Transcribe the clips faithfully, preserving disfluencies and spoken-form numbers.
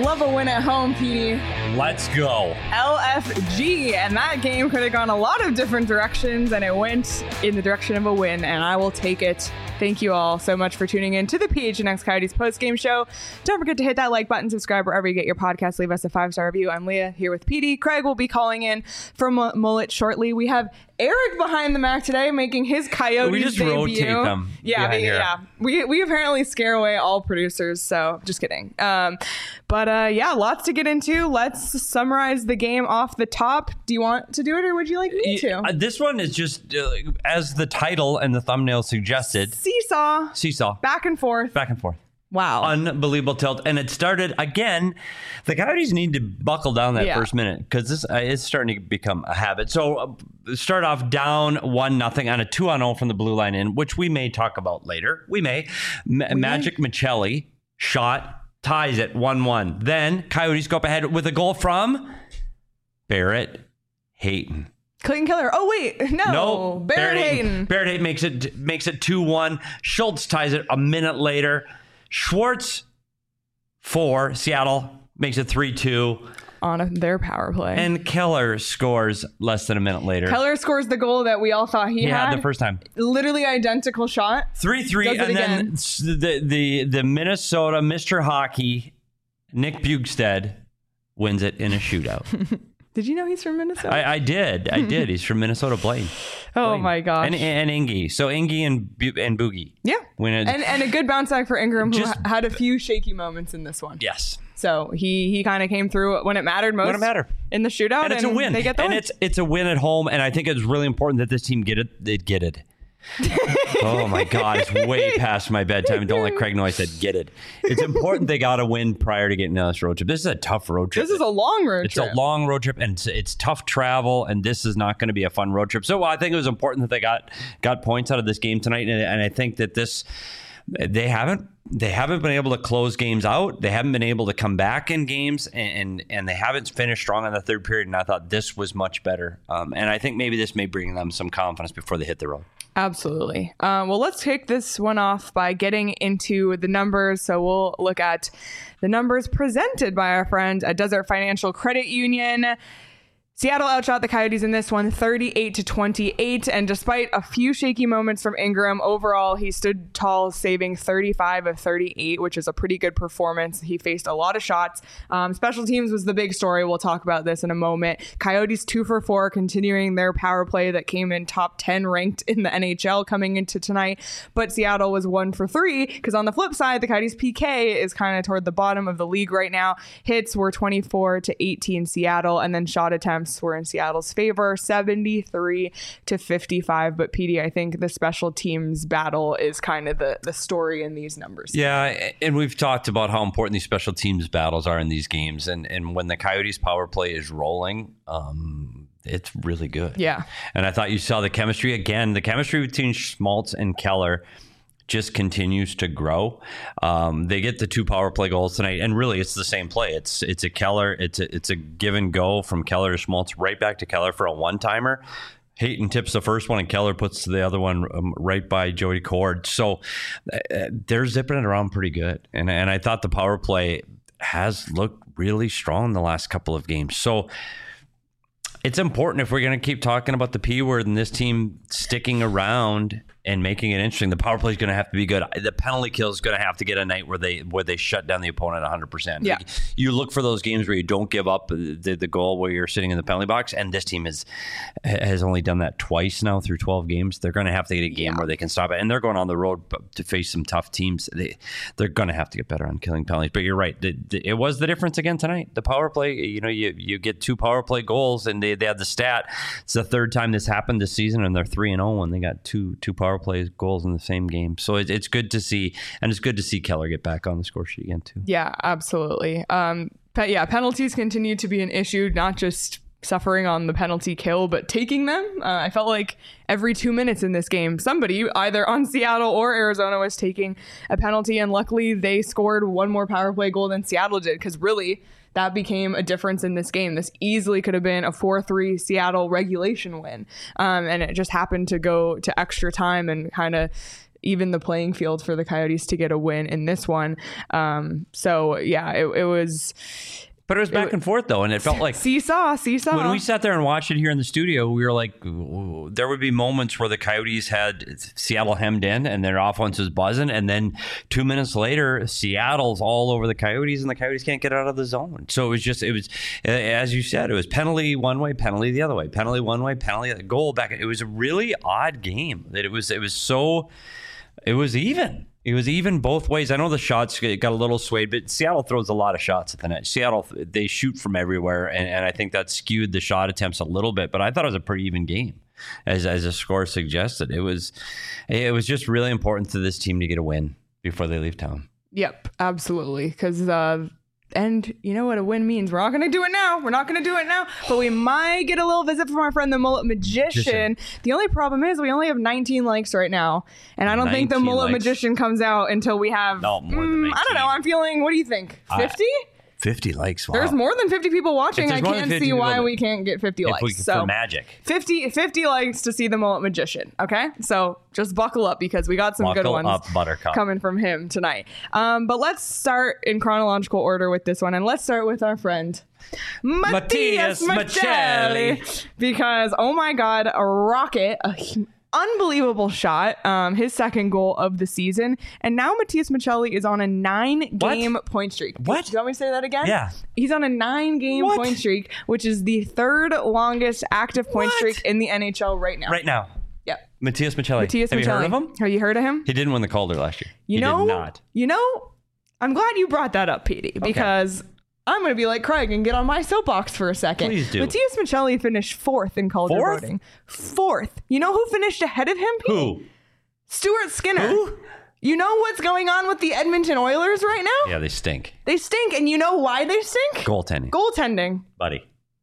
love a win at home, Petey. Let's go. L F G, and that game could have gone a lot of different directions, and it went in the direction of a win, and I will take it. Thank you all so much for tuning in to the P H N X Coyotes post-game show. Don't forget to hit that like button, subscribe wherever you get your podcast, leave us a five-star review. I'm Leah here with Petey. Craig will be calling in from M- Mullet shortly. We have Eric behind the Mac today, making his Coyotes We just debut. rotate them. Yeah, we, yeah. We we apparently scare away all producers, so just kidding. Um, but uh, yeah, lots to get into. Let's summarize the game off the top. Do you want to do it, or would you like me to? Uh, this one is just, uh, as the title and the thumbnail suggested, Seesaw. Seesaw. Back and forth. Back and forth. Wow. Unbelievable tilt. And it started again. The Coyotes need to buckle down that Yeah. first minute because this uh, is starting to become a habit. So uh, start off down one nothing on a two on oh from the blue line in, which we may talk about later. We may. Ma- we Magic may. Michelli shot, ties it one one. Then Coyotes go up ahead with a goal from Barrett Hayton. Clayton Keller. Oh, wait. No. No, Barrett Hayton. Barrett Hayton makes it makes it two one. Schultz ties it a minute later. Schwartz for Seattle makes it three two. On a, their power play. And Keller scores less than a minute later. Keller scores the goal that we all thought he, he had. had. the first time. Literally identical shot. three three. Does it And then again. s- the, the, the Minnesota Mister Hockey, Nick Bugstad, wins it in a shootout. Did you know he's from Minnesota? I, I did. I did. He's from Minnesota. Blaine. oh, Blaine. my gosh. And, and Ingy. So Ingy and, Bu- and Boogie. yeah. Win it. And, and a good bounce back for Ingram, who Just- ha- had a few shaky moments in this one. Yes. So he he kind of came through when it mattered most. When it mattered. In the shootout. And it's a win. They get the and win. it's it's a win at home. And I think it's really important that this team get it. They get it. Oh my God, it's way past my bedtime. Don't let Craig know I said get it. It's important they got to win prior to getting on this road trip. This is a tough road trip. This is a long road It's trip. a long road trip, and it's, it's tough travel, and this is not going to be a fun road trip. So I think it was important that they got got points out of this game tonight, and, and I think that this they haven't they haven't been able to close games out. They haven't been able to come back in games, and and, and they haven't finished strong in the third period. And I thought this was much better, um, and I think maybe this may bring them some confidence before they hit the road. Absolutely. Um, well, let's kick this one off by getting into the numbers. So we'll look at the numbers presented by our friend at Desert Financial Credit Union. Seattle outshot the Coyotes in this one thirty-eight to twenty-eight, and despite a few shaky moments from Ingram, overall he stood tall, saving thirty-five of thirty-eight, which is a pretty good performance. He faced a lot of shots. Um, special teams was the big story. We'll talk about this in a moment. Coyotes two for four, continuing their power play that came in top ten ranked in the N H L coming into tonight, but Seattle was one for three, because on the flip side, the Coyotes P K is kind of toward the bottom of the league right now. Hits were twenty-four to eighteen Seattle, and then shot attempts were in Seattle's favor, seventy-three to fifty-five. But Petey, I think the special teams battle is kind of the, the story in these numbers. Yeah, and we've talked about how important these special teams battles are in these games. And, and when the Coyotes power play is rolling, um, it's really good. Yeah. And I thought you saw the chemistry again. The chemistry between Schmaltz and Keller just continues to grow. Um, they get the two power play goals tonight, and really it's the same play. It's it's a Keller, it's a, it's a give and go from Keller to Schmaltz right back to Keller for a one-timer. Hayton tips the first one, and Keller puts the other one um, right by Jody Cord. So uh, they're zipping it around pretty good. And, and I thought the power play has looked really strong the last couple of games. So it's important if we're going to keep talking about the P word and this team sticking around and making it interesting. The power play is going to have to be good. The penalty kill is going to have to get a night where they where they shut down the opponent one hundred percent. Yeah. Like, you look for those games where you don't give up the, the goal where you're sitting in the penalty box, and this team is, has only done that twice now through twelve games. They're going to have to get a game Yeah. where they can stop it, and they're going on the road to face some tough teams. They, they're going to have to get better on killing penalties. But you're right. The, the, it was the difference again tonight. The power play, you know, you, you get two power play goals, and they, they had the stat. It's the third time this happened this season, and they're three and oh when they got two two power play goals in the same game. So it, it's good to see, and it's good to see Keller get back on the score sheet again too. Yeah, absolutely. Um, but yeah, penalties continue to be an issue, not just suffering on the penalty kill, but taking them. Uh, I felt like every two minutes in this game, somebody either on Seattle or Arizona was taking a penalty, and luckily they scored one more power play goal than Seattle did, because really that became a difference in this game. This easily could have been a four three Seattle regulation win. Um, and it just happened to go to extra time and kind of even the playing field for the Coyotes to get a win in this one. Um, so yeah, it, it was. But it was back it, and forth, though, and it felt like... Seesaw, seesaw. When we sat there and watched it here in the studio, we were like, there would be moments where the Coyotes had Seattle hemmed in and their offense was buzzing, and then two minutes later, Seattle's all over the Coyotes, and the Coyotes can't get out of the zone. So it was just, it was, as you said, it was penalty one way, penalty the other way, penalty one way, penalty, goal back. It was a really odd game. That it was, it was so, it was even. It was even both ways. I know the shots got a little swayed, but Seattle throws a lot of shots at the net. Seattle, they shoot from everywhere, and, and I think that skewed the shot attempts a little bit. But I thought it was a pretty even game, as as the score suggested. It was, it was just really important to this team to get a win before they leave town. Yep, absolutely. Because uh, and you know what a win means. We're not going to do it now. We're not going to do it now. But we might get a little visit from our friend, the Mullet Magician. Magician. The only problem is we only have nineteen likes right now. And I don't think the Mullet likes. Magician comes out until we have, no, more than mm, I don't know. I'm feeling, what do you think? fifty? Uh, fifty likes. Wow. There's more than fifty people watching. I can't see why we can't get fifty likes. We, so for magic. fifty, fifty likes to see the Mullet Magician. Okay, so just buckle up because we got some buckle good ones up, Buttercup. coming from him tonight. Um, but let's start in chronological order with this one, and let's start with our friend Matias Maccelli, because oh my God, a rocket, a unbelievable shot, um, his second goal of the season. And now Matias Maccelli is on a nine-game what? point streak. What? Do you want me to say that again? Yeah. He's on a nine-game what? point streak, which is the third longest active point what? streak in the N H L right now. Right now. Yep. Matias Maccelli. Matias Have Maccelli. you heard of him? Have you heard of him? He didn't win the Calder last year. You he know, did not. You know, I'm glad you brought that up, Petey, because... Okay. I'm going to be like Craig and get on my soapbox for a second. Please do. Matias Maccelli finished fourth in Calder fourth? voting. Fourth. You know who finished ahead of him, Pete? Who? Stuart Skinner. Who? You know what's going on with the Edmonton Oilers right now? Yeah, they stink. They stink. And you know why they stink? Goaltending. Goaltending. Buddy.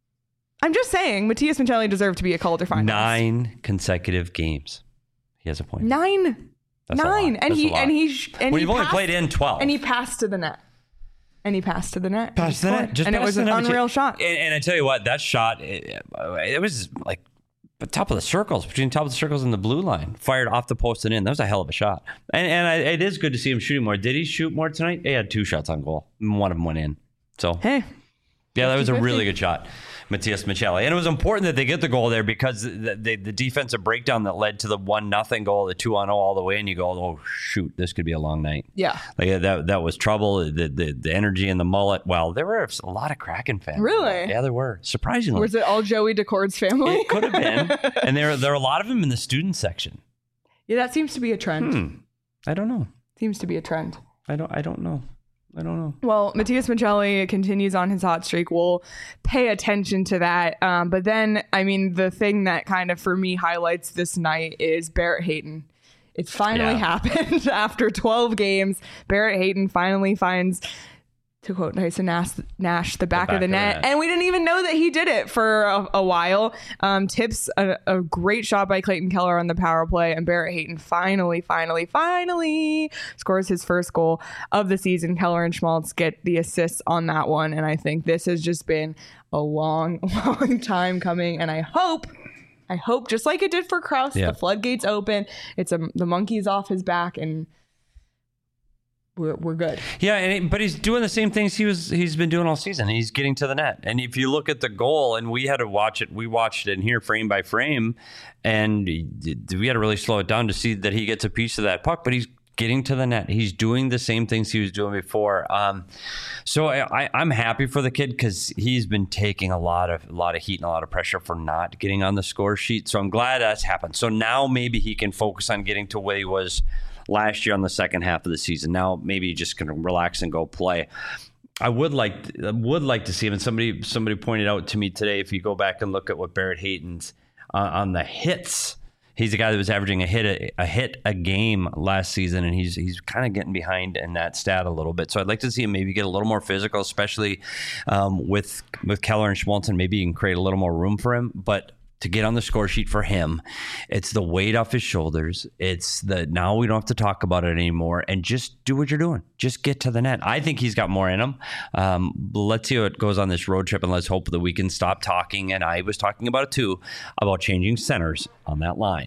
I'm just saying, Matias Maccelli deserved to be a Calder finalist. Nine consecutive games. He has a point. Nine. That's Nine. And That's he, and he, and well, he you've only passed, played in twelve. And he passed to the net. And he passed to the net. Passed to the net. Just and it was an unreal shot. And, and I tell you what, that shot, it, it was like the top of the circles, between the top of the circles and the blue line. Fired off the post and in. That was a hell of a shot. And, and I, it is good to see him shooting more. Did he shoot more tonight? He had two shots on goal. One of them went in. So, hey. Yeah, that was a really good shot. Matias Maccelli. And it was important that they get the goal there because the, the, the defensive breakdown that led to the one nothing goal, the two on oh all the way, and you go, oh, shoot, this could be a long night. Yeah. Like that that was trouble. The the, the energy in the mullet. Well, there were a lot of Kraken fans. Really? Yeah, there were. Surprisingly. Was it all Joey Decord's family? It could have been. And there, there are a lot of them in the student section. Yeah, that seems to be a trend. Hmm. I don't know. Seems to be a trend. I don't I don't know. I don't know. Well, Matias Maccelli continues on his hot streak. We'll pay attention to that. Um, but then, I mean, the thing that kind of, for me, highlights this night is Barrett Hayton. It's finally yeah. happened after twelve games. Barrett Hayton finally finds, to quote Tyson Nash, Nash the back, the back of the net. Of the net. And we didn't even know that he did it for a, a while. Um, tips a, a great shot by Clayton Keller on the power play. And Barrett Hayton finally, finally, finally scores his first goal of the season. Keller and Schmaltz get the assists on that one. And I think this has just been a long, long time coming. And I hope... I hope, just like it did for Krause, yeah. the floodgates open. It's a, the monkey's off his back, and we're we're good. Yeah, and it, but he's doing the same things he was he's been doing all season. He's getting to the net, and if you look at the goal, and we had to watch it, we watched it in here frame by frame, and we had to really slow it down to see that he gets a piece of that puck. But he's getting to the net. He's doing the same things he was doing before. Um, so I, I'm happy for the kid because he's been taking a lot of a lot of heat and a lot of pressure for not getting on the score sheet. So I'm glad that's happened. So now maybe he can focus on getting to where he was last year on the second half of the season. Now maybe he just can relax and go play. I would like I would like to see him. And somebody somebody pointed out to me today, if you go back and look at what Barrett Hayton's uh, on the hits. He's a guy that was averaging a hit a, a hit a game last season, and he's he's kind of getting behind in that stat a little bit. So I'd like to see him maybe get a little more physical, especially um, with with Keller and Schmaltz. Maybe you can create a little more room for him. But to get on the score sheet for him, it's the weight off his shoulders. It's the now we don't have to talk about it anymore, and just do what you're doing. Just get to the net. I think he's got more in him. Um, let's see how it goes on this road trip, and let's hope that we can stop talking. And I was talking about it too, about changing centers on that line.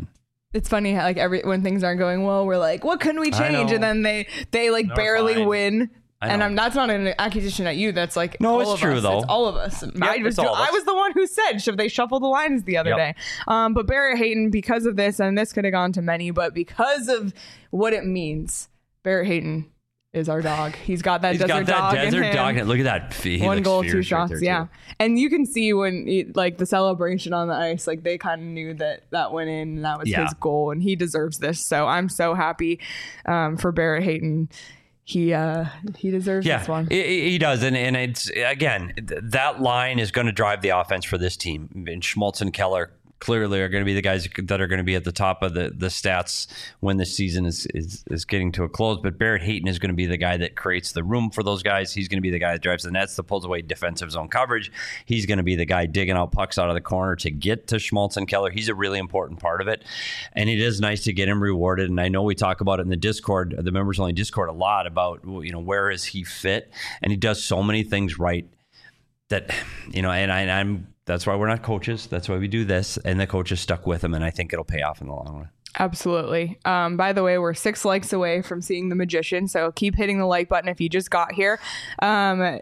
It's funny how like every when things aren't going well, we're like, what can we change? And then they they like No, barely fine. win. And I'm, that's not an accusation at you. That's like no, all it's of true us. though. It's all of us. Yep, I was all of I us. was the one who said should they shuffle the lines the other Yep. day. Um, but Barrett Hayton, because of this, and this could have gone to many, but because of what it means, Barrett Hayton is our dog. He's got that He's desert got that dog desert in him. dog. Look at that. He One looks goal, two fierce right shots. there, Yeah. too. And you can see when he, like the celebration on the ice, like they kind of knew that that went in and that was Yeah. his goal and he deserves this. So I'm so happy um, for Barrett Hayton. He uh, he deserves Yeah, this one. he, he does. And, and it's, again, th- that line is going to drive the offense for this team. And Schmaltz and Keller clearly are going to be the guys that are going to be at the top of the, the stats when the season is, is is getting to a close. But Barrett Hayton is going to be the guy that creates the room for those guys. He's going to be the guy that drives the nets, that pulls away defensive zone coverage. He's going to be the guy digging out pucks out of the corner to get to Schmaltz and Keller. He's a really important part of it. And it is nice to get him rewarded. And I know we talk about it in the Discord, the members only Discord, a lot about, you know, where is he fit? And he does so many things right that, you know, and I, and I'm, that's why we're not coaches. That's why we do this. And the coaches stuck with him. And I think it'll pay off in the long run. Absolutely. Um, by the way, we're six likes away from seeing The Magician. So keep hitting the like button if you just got here. Um,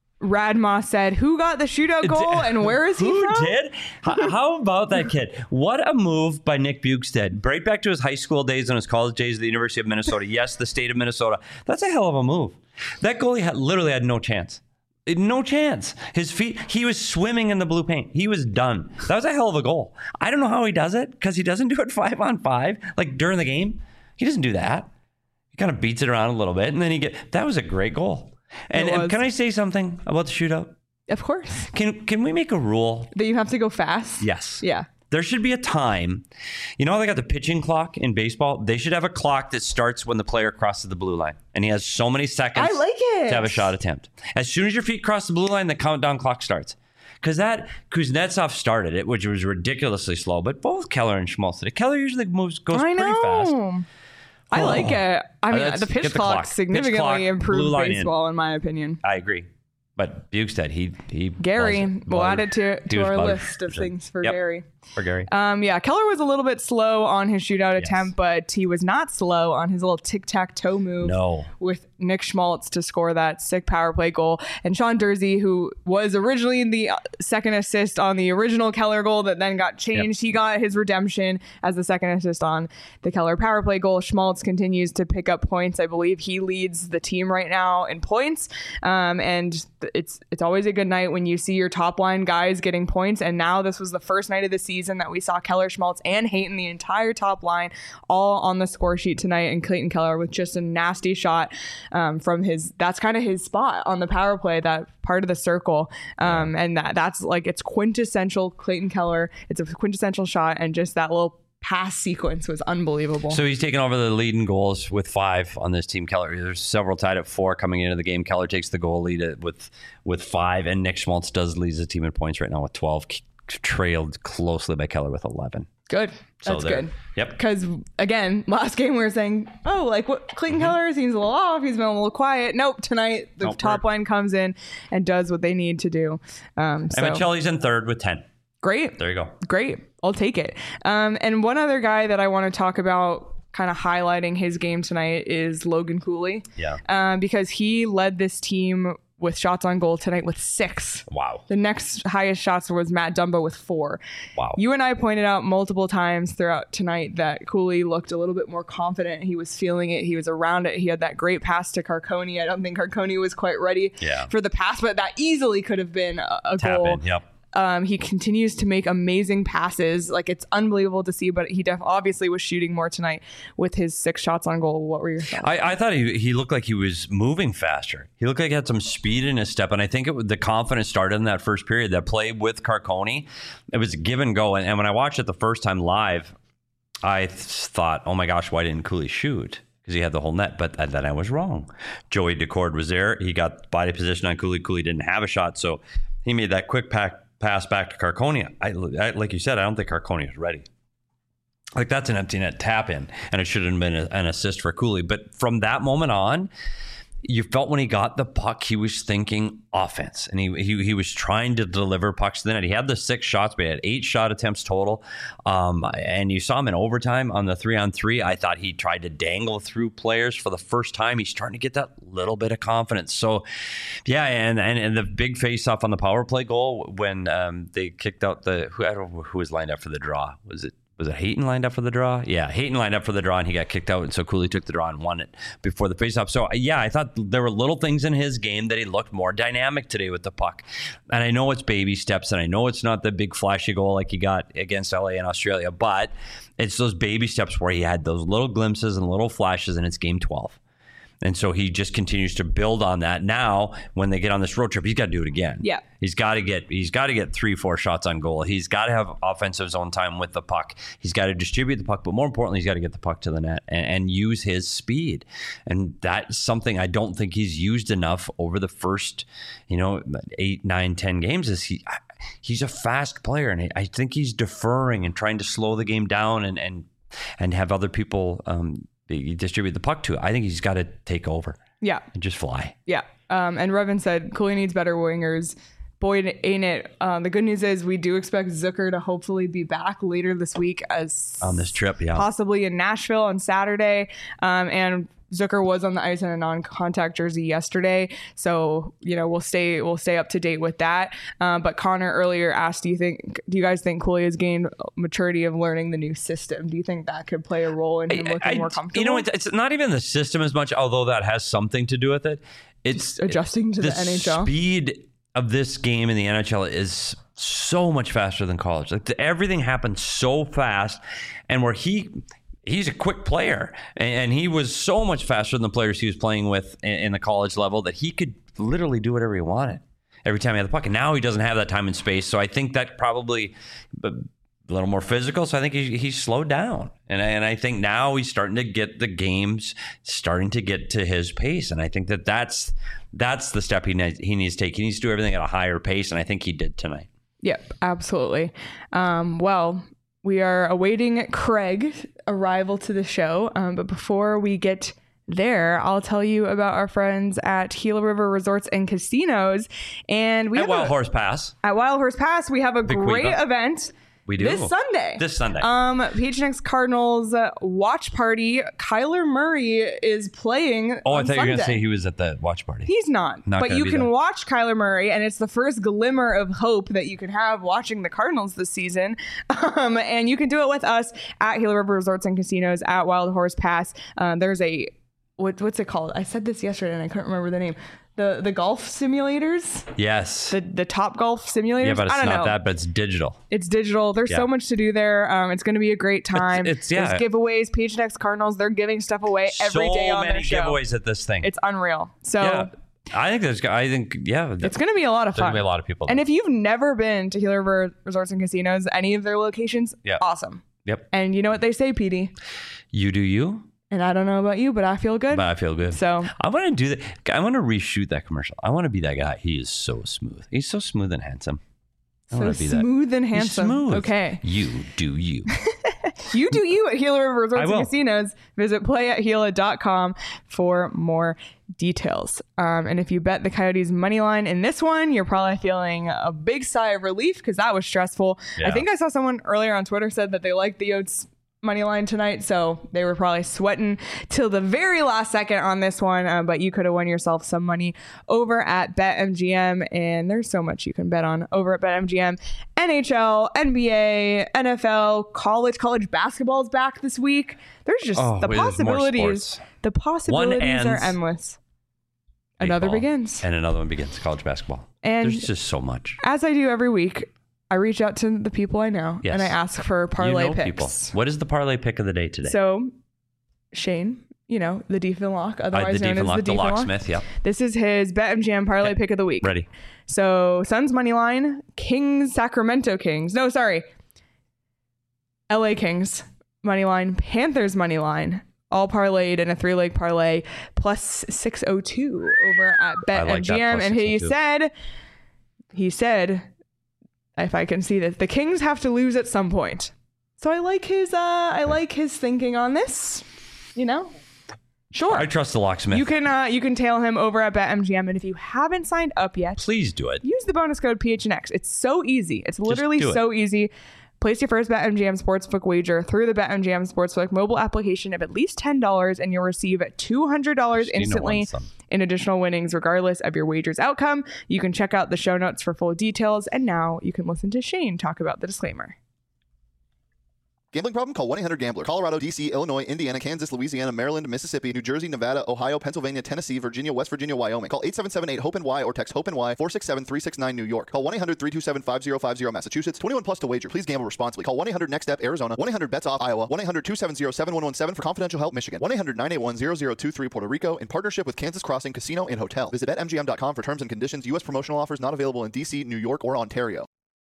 Radma said, who got the shootout goal and where is he Who from? did? H- How about that kid? What a move by Nick Bukestad. Right back to his high school days and his college days at the University of Minnesota. Yes, the state of Minnesota. That's a hell of a move. That goalie had, literally had no chance. No chance. His feet, he was swimming in the blue paint. He was done. That was a hell of a goal. I don't know how he does it because he doesn't do it five on five, like during the game. He doesn't do that. He kind of beats it around a little bit and then he get, that was a great goal. And, It and was. can I say something about the shootout? Of course. Can can we make a rule? That you have to go fast? Yes. Yeah. There should be a time. You know how they got the pitching clock in baseball? They should have a clock that starts when the player crosses the blue line. And he has so many seconds I like it. to have a shot attempt. As soon as your feet cross the blue line, the countdown clock starts. Because that Kuznetsov started it, which was ridiculously slow. But both Keller and Schmaltz did it. Keller usually moves goes I pretty fast. know. I Oh. like it. I mean, Let's the pitch get the clock clock. Pitch significantly clock, blue improved line in. baseball, in my opinion. I agree. But Bukestad, he he Gary, buzzed it. we'll add Buzzed. it to, He to was our buzzed. list of things for Yep. Gary. For Gary. Um, yeah, Keller was a little bit slow on his shootout Yes. attempt, but he was not slow on his little tic-tac-toe move No. with Nick Schmaltz to score that sick power play goal. And Sean Dursey, who was originally the uh, second assist on the original Keller goal that then got changed, Yep. he got his redemption as the second assist on the Keller power play goal. Schmaltz continues to pick up points. I believe he leads the team right now in points. Um, and it's it's always a good night when you see your top line guys getting points. And now this was the first night of the season that we saw Keller, Schmaltz, and Hayton, the entire top line, all on the score sheet tonight. And Clayton Keller with just a nasty shot um, from his, that's kind of his spot on the power play, that part of the circle. Um, and that that's like, it's quintessential Clayton Keller. It's a quintessential shot. And just that little pass sequence was unbelievable. So he's taken over the lead in goals with five on this team. Keller, there's several tied at four coming into the game. Keller takes the goal lead at- with with five, and Nick Schmaltz does lead the team in points right now with twelve, k- trailed closely by Keller with eleven. Good. So That's they're- good. Yep. Because again, last game we were saying, oh, like what Clayton Mm-hmm. Keller seems a little off. He's been a little quiet. Nope. Tonight the Nope, top we're- line comes in and does what they need to do. Um, so And Michelli's in third with ten. great. There you go. Great. I'll take it. Um, and one other guy that I want to talk about, kind of highlighting his game tonight, is Logan Cooley. Yeah. Um, because he led this team with shots on goal tonight with six. Wow. The next highest shots was Matt Dumba with four. Wow. You and I pointed out multiple times throughout tonight that Cooley looked a little bit more confident. He was feeling it. He was around it. He had that great pass to Carconi. I don't think Carconi was quite ready Yeah. for the pass, but that easily could have been a, a Tap goal. in. Yep. Um, he continues to make amazing passes. Like, it's unbelievable to see, but he def- obviously was shooting more tonight with his six shots on goal. What were your thoughts? I, I thought he, he looked like he was moving faster. He looked like he had some speed in his step, and I think it was, the confidence started in that first period. That play with Carconi, it was a give and go. And, and when I watched it the first time live, I th- thought, oh my gosh, why didn't Cooley shoot? Because he had the whole net, but then I was wrong. Joey Decord was there. He got body position on Cooley. Cooley didn't have a shot, so he made that quick pack pass back to Carconi. I, I, like you said, I don't think Carconi was ready. Like, that's an empty net tap in, and it should have been a, an assist for Cooley. But from that moment on, you felt when he got the puck, he was thinking offense, and he he, he was trying to deliver pucks to the net. He had the six shots, but he had eight shot attempts total. Um, and you saw him in overtime on the three on three. I thought he tried to dangle through players for the first time. He's starting to get that little bit of confidence. So, yeah, and and, and the big face off on the power play goal when um, they kicked out the who I don't know who was lined up for the draw. Was it? Was it Hayton lined up for the draw? Yeah, Hayton lined up for the draw, and he got kicked out, and so Cooley took the draw and won it before the faceoff. So, yeah, I thought there were little things in his game that he looked more dynamic today with the puck. And I know it's baby steps, and I know it's not the big flashy goal like he got against L A and Australia, but it's those baby steps where he had those little glimpses and little flashes, and it's game twelve. And so he just continues to build on that. Now, when they get on this road trip, he's got to do it again. Yeah. He's got to get he's got to get three, four shots on goal. He's got to have offensive zone time with the puck. He's got to distribute the puck, but more importantly, he's got to get the puck to the net and, and use his speed. And that's something I don't think he's used enough over the first, you know, eight, nine, ten games. Is he? He's a fast player, and I think he's deferring and trying to slow the game down and and and have other people. Um, You distribute the puck to. I think he's got to take over. Yeah. And just fly. Yeah. Um, and Revin said, Cooley needs better wingers. Boy, ain't it. Um, the good news is we do expect Zucker to hopefully be back later this week as on this trip, yeah. Possibly in Nashville on Saturday. Um, and Zucker was on the ice in a non-contact jersey yesterday, so you know we'll stay we'll stay up to date with that. Um, but Connor earlier asked, "Do you think? Do you guys think Cooley has gained maturity of learning the new system? Do you think that could play a role in him I, looking I, more comfortable?" You know, it's, it's not even the system as much, although that has something to do with it. It's Just adjusting to the, the N H L. Speed of this game in the N H L is so much faster than college. Like the, everything happens so fast, and where he. He's a quick player, and he was so much faster than the players he was playing with in the college level that he could literally do whatever he wanted every time he had the puck. And now he doesn't have that time and space, so I think that probably a little more physical. So I think he, he's slowed down, and I, and I think now he's starting to get the games starting to get to his pace, and I think that that's that's the step he needs, he needs to take. He needs to do everything at a higher pace, and I think he did tonight. Yep, absolutely. Um, well. We are awaiting Craig's arrival to the show. Um, but before we get there, I'll tell you about our friends at Gila River Resorts and Casinos. And we at have Wild a, Horse Pass. At Wild Horse Pass, we have a Big great week, huh? event. We do. This Sunday. This Sunday. Um, P H N X Cardinals uh, watch party. Kyler Murray is playing Oh, on I thought you were going to Sunday. say he was at the watch party. He's not. Not but gonna you be can there. watch Kyler Murray, and it's the first glimmer of hope that you can have watching the Cardinals this season. Um, and you can do it with us at Gila River Resorts and Casinos at Wild Horse Pass. Um, there's a, what, what's it called? I said this yesterday, and I couldn't remember the name. The the golf simulators, Yes. the the Top Golf simulators. Yeah, but it's I don't not know. that, but it's digital. It's digital. There's Yeah. so much to do there. Um, it's going to be a great time. It's- it's- yeah. There's giveaways. P H N X Cardinals, they're giving stuff away every so day on many their show. giveaways at this thing. It's unreal. So yeah. I think there's, I think, yeah. it's going to be a lot of There's fun. going to be a lot of people. And there. if you've never been to Gila River Resorts and Casinos, any of their locations, Yeah. awesome. Yep. And you know what they say, P D? You do you, And I don't know about you, but I feel good. but I feel good. So I want to do that. I want to reshoot that commercial. I want to be that guy. He is so smooth. He's so smooth and handsome. I so want to be that. smooth and He's handsome. smooth. Okay. You do you. You do you at Gila River Resorts I and will. Casinos. Visit play at gila dot com for more details. Um, and if you bet the Coyotes money line in this one, you're probably feeling a big sigh of relief because that was stressful. Yeah. I think I saw someone earlier on Twitter said that they liked the Yotes money line tonight, so they were probably sweating till the very last second on this one, uh, but you could have won yourself some money over at BetMGM, and there's so much you can bet on over at BetMGM. N H L, N B A, N F L, college college basketball is back this week. There's just Oh, the wait, there's more possibilities sports. the possibilities ends. are endless. Another Baseball. begins. And another one begins. College basketball. And There's just so much. as I do every week, I reach out to the people I know Yes. and I ask for parlay you know picks. people. What is the parlay pick of the day today? So, Shane, you know, the Deefin Lock, Uh, otherwise the known Deefin as Lock, the the Deefin Lock. locksmith. Yeah. This is his BetMGM parlay pick of the week. Ready. So, Suns money line, Kings, Sacramento Kings. No, sorry. L A Kings money line, Panthers money line. All parlayed in a three-leg parlay plus six oh two over at I like that, BetMGM. plus And he six oh two. said, he said, if I can see this, the Kings have to lose at some point. So I like his, uh, I like his thinking on this. You know, Sure. I trust the locksmith. You can uh, you can tail him over at BetMGM, and if you haven't signed up yet, please do it. Use the bonus code P H N X. It's so easy. It's literally so easy. Place your first BetMGM Sportsbook wager through the BetMGM Sportsbook mobile application of at least ten dollars, and you'll receive two hundred dollars instantly in additional winnings, regardless of your wager's outcome. You can check out the show notes for full details, and now you can listen to Shane talk about the disclaimer. Gambling problem? Call one eight hundred gambler. Colorado, D C, Illinois, Indiana, Kansas, Louisiana, Maryland, Mississippi, New Jersey, Nevada, Ohio, Pennsylvania, Tennessee, Virginia, West Virginia, Wyoming. Call eight seven seven eight hope N Y or text HOPE-NY four six seven three six nine New York. Call one eight hundred three two seven five zero five zero Massachusetts. twenty-one plus to wager. Please gamble responsibly. Call one eight hundred next step Arizona. one eight hundred bets off Iowa. one eight hundred two seven zero seven one one seven for confidential help Michigan. one eight hundred nine eight one zero zero two three Puerto Rico in partnership with Kansas Crossing Casino and Hotel. Visit bet M G M dot com for terms and conditions. U S promotional offers not available in D C, New York, or Ontario.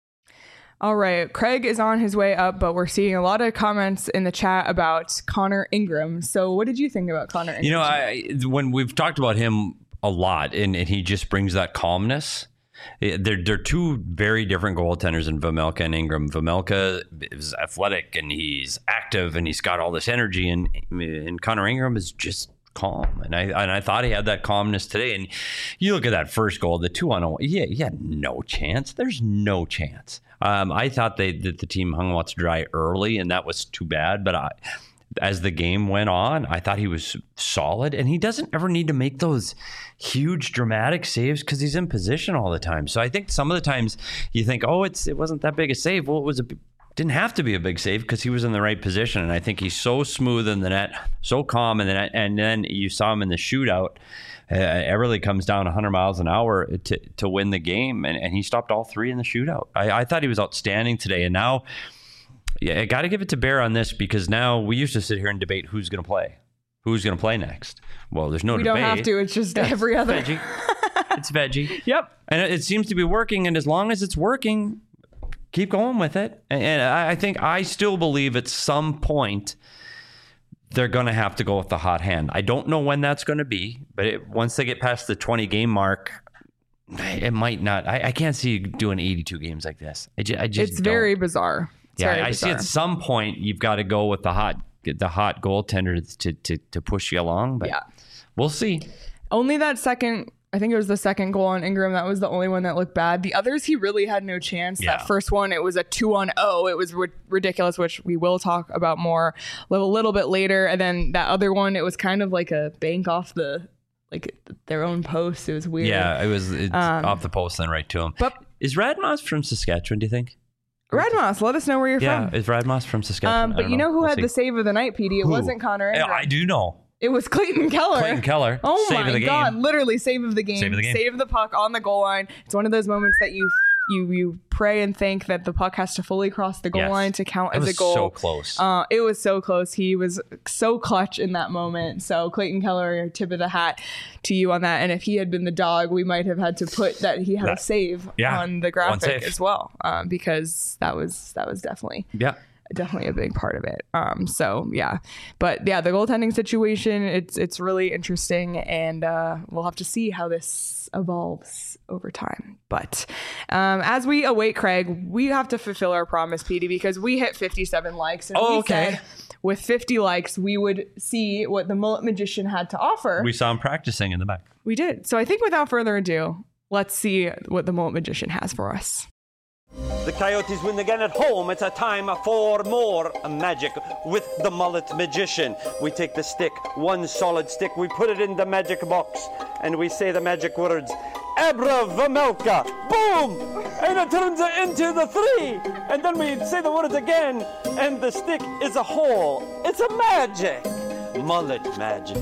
All right, Craig is on his way up, but we're seeing a lot of comments in the chat about Connor Ingram. So what did you think about Connor Ingram? You know, I, when we've talked about him a lot, and, and he just brings that calmness. They're, they're two very different goaltenders in Vejmelka and Ingram. Vejmelka is athletic, and he's active, and he's got all this energy, and, and Connor Ingram is just calm. And I and I thought he had that calmness today. And you look at that first goal, the two on one, yeah, he had no chance. There's no chance. Um, I thought they that the team hung lots dry early, and that was too bad. But I, as the game went on, I thought he was solid. And he doesn't ever need to make those huge dramatic saves because he's in position all the time. So I think some of the times you think, oh, it's it wasn't that big a save. Well, it was a didn't have to be a big save because he was in the right position. And I think he's so smooth in the net, so calm in the net. And then you saw him in the shootout. Uh, Everly comes down one hundred miles an hour to to win the game, and, and he stopped all three in the shootout. I, I thought he was outstanding today. And now, yeah, I got to give it to Bear on this, because now we used to sit here and debate who's going to play. Who's going to play next? Well, there's no we debate. We don't have to. It's just yeah, every other. Veggie. It's veggie. Yep. And it, it seems to be working, and as long as it's working, keep going with it. And, and I, I think I still believe at some point they're going to have to go with the hot hand. I don't know when that's going to be, but it, once they get past the twenty game mark, it might not. I, I can't see you doing eighty-two games like this. I just, I just it's don't. very bizarre. It's yeah, very I bizarre. see at some point you've got to go with the hot, the hot goaltender to to to push you along. But yeah, we'll see. Only that second. I think it was the second goal on Ingram. That was the only one that looked bad. The others, he really had no chance. Yeah. That first one, it was a two on oh. It was ri- ridiculous, which we will talk about more a little, little bit later. And then that other one, it was kind of like a bank off the, like their own post. It was weird. Yeah, it was it's um, off the post and right to him. But is Radmoss from Saskatchewan, do you think? Radmoss, let us know where you're yeah, from. is Radmoss from Saskatchewan? Um, but you know, know who we'll had see. the save of the night, P D? It Who? wasn't Connor Ingram. Yeah, I do know. It was Clayton Keller. Clayton Keller. Oh Save my of the game. God. Literally save of the game. Save of the game. Save the puck on the goal line. It's one of those moments that you you you pray and think that the puck has to fully cross the goal Yes. line to count It as was a goal. so close. Uh, it was so close. He was so clutch in that moment. So Clayton Keller, tip of the hat to you on that. And if he had been the dog, we might have had to put that he had That- a save yeah, on the one graphic save. as well, um, because that was that was definitely Yeah. definitely a big part of it. Um, so yeah, but yeah, the goaltending situation, it's, it's really interesting, and uh, we'll have to see how this evolves over time. But um, as we await Craig, we have to fulfill our promise, P D, because we hit fifty-seven likes, and Oh, we okay. said with fifty likes, we would see what the Mullet Magician had to offer. We saw him practicing in the back. We did. So I think without further ado, let's see what the Mullet Magician has for us. The Coyotes win again at home. It's a time for more magic with the Mullet Magician. We take the stick, one solid stick, we put it in the magic box, and we say the magic words, Abra Vejmelka, boom! And it turns it into the three. And then we say the words again, and the stick is a hole. It's a magic. Mullet magic.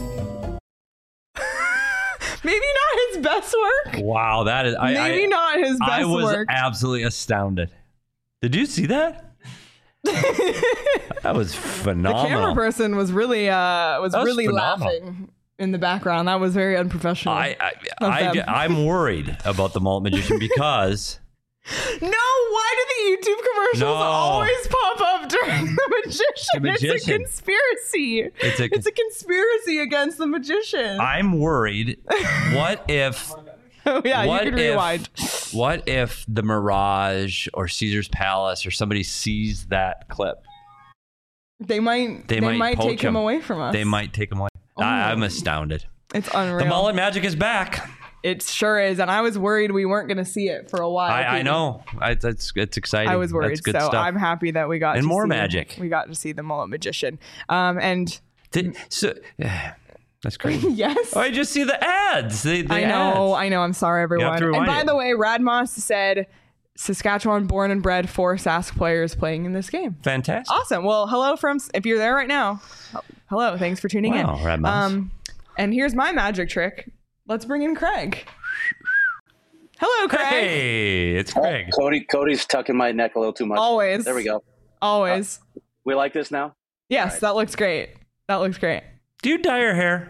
Maybe not his best work. Wow, that is. I, Maybe I, not his best I was work. absolutely astounded. Did you see that? That was The phenomenal. camera person was really uh was, That was really phenomenal. laughing in the background. That was very unprofessional. I, I, Of I, them. I'm worried about the Mullet Magician because no, why do the YouTube commercials No. always pop up during the magician? The magician. It's a conspiracy. It's a- it's a conspiracy against the magician. I'm worried. What if? oh yeah, what you can if, rewind. What if the Mirage or Caesar's Palace or somebody sees that clip? They might They they, might might poach take him him. away from us. They might take him away. I, I'm astounded. It's unreal. The mullet magic is back. It sure is, and I was worried we weren't going to see it for a while. I, I know. I, that's it's exciting. I was worried, That's good so stuff. I'm happy that we got And to more see, magic. We got to see the mullet magician, um, and Did, so, that's crazy. yes, Oh, I just see the ads. The, the I know, ads. I know. I'm sorry, have everyone. to And remind by you. the way, Radmoss said Saskatchewan born and bred four Sask players playing in this game. Fantastic. Awesome. Well, hello from if you're there right now. Hello, thanks for tuning Wow, in. Radmoss. Um, and here's my magic trick. Let's bring in Craig. Hello, Craig. Hey, it's Craig. Cody, Cody's tucking my neck a little too much. Always. There we go. Always. We like this now? yes, right. that looks great. That looks great. Do you dye your hair?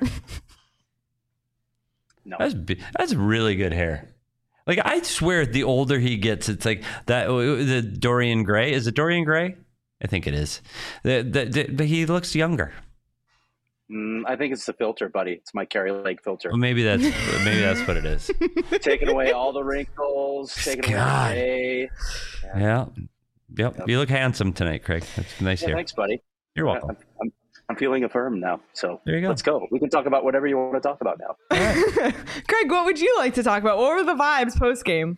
No. That's bi- that's really good hair. Like, I swear, the older he gets, it's like that. The Dorian Gray, is it Dorian Gray? I think it is. The, the, the, he looks younger. Mm, I think it's the filter, buddy. It's my Carrie Lake filter. Well, maybe that's maybe that's what it is. Taking away all the wrinkles, taking away God. the gray. Yeah. Yep. You look handsome tonight, Craig. That's nice Yeah, hair. thanks, buddy. You're welcome. I'm, I'm, I'm feeling affirmed now. So There you go. let's go. We can talk about whatever you want to talk about now. Craig, what would you like to talk about? What were the vibes post game?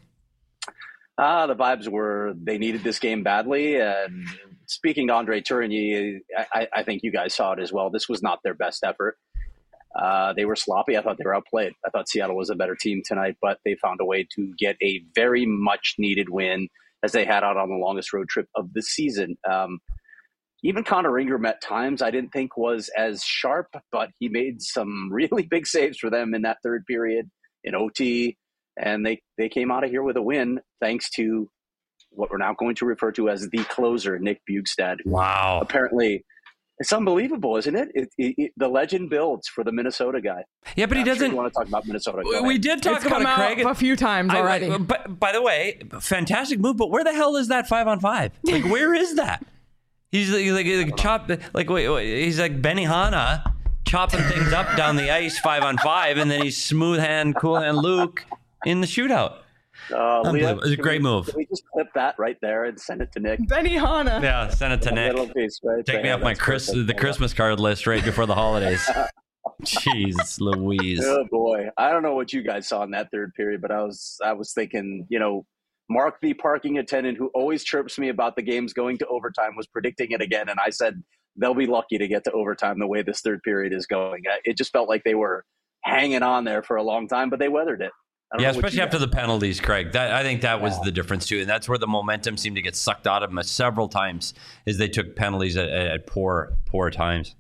Ah, the vibes were they needed this game badly. And speaking to Andre Tourigny, I, I think you guys saw it as well. This was not their best effort. Uh, they were sloppy. I thought they were outplayed. I thought Seattle was a better team tonight, but they found a way to get a very much needed win as they had out on the longest road trip of the season. Um, even Connor Ingram at times I didn't think was as sharp, but he made some really big saves for them in that third period in O T. And they, they came out of here with a win thanks to what we're now going to refer to as the closer, Nick Bjugstad. who Wow. Apparently, it's unbelievable, isn't it? It, it, it? The legend builds for the Minnesota guy. Yeah, but he I'm sure doesn't. you want to talk about Minnesota. Go We ahead. did talk It's about come it, out Craig. a few times I- already. I- but by the way, fantastic move. But where the hell is that five on five? Like, where is that? He's like, like, like chop, like wait, wait, he's like Benihana, chopping things up down the ice five on five, and then he's smooth hand, cool hand Luke in the shootout. Uh, Leah, Unbelievable. It's a can great we, move. Can we just clip that right there and send it to Nick? Benihana. Yeah, send it to A little Nick. piece right Take me there. off my That's Chris, perfect. the Christmas card list right before the holidays. Jeez, Louise. Oh boy, I don't know what you guys saw in that third period, but I was I was thinking, you know, Mark, the parking attendant who always chirps me about the games going to overtime, was predicting it again, and I said they'll be lucky to get to overtime the way this third period is going. It just felt like they were hanging on there for a long time, but they weathered it. I don't Yeah, know what especially you after guys- the penalties, Craig. That I think that was Yeah. the difference too, and that's where the momentum seemed to get sucked out of them several times, is they took penalties at, at poor, poor times.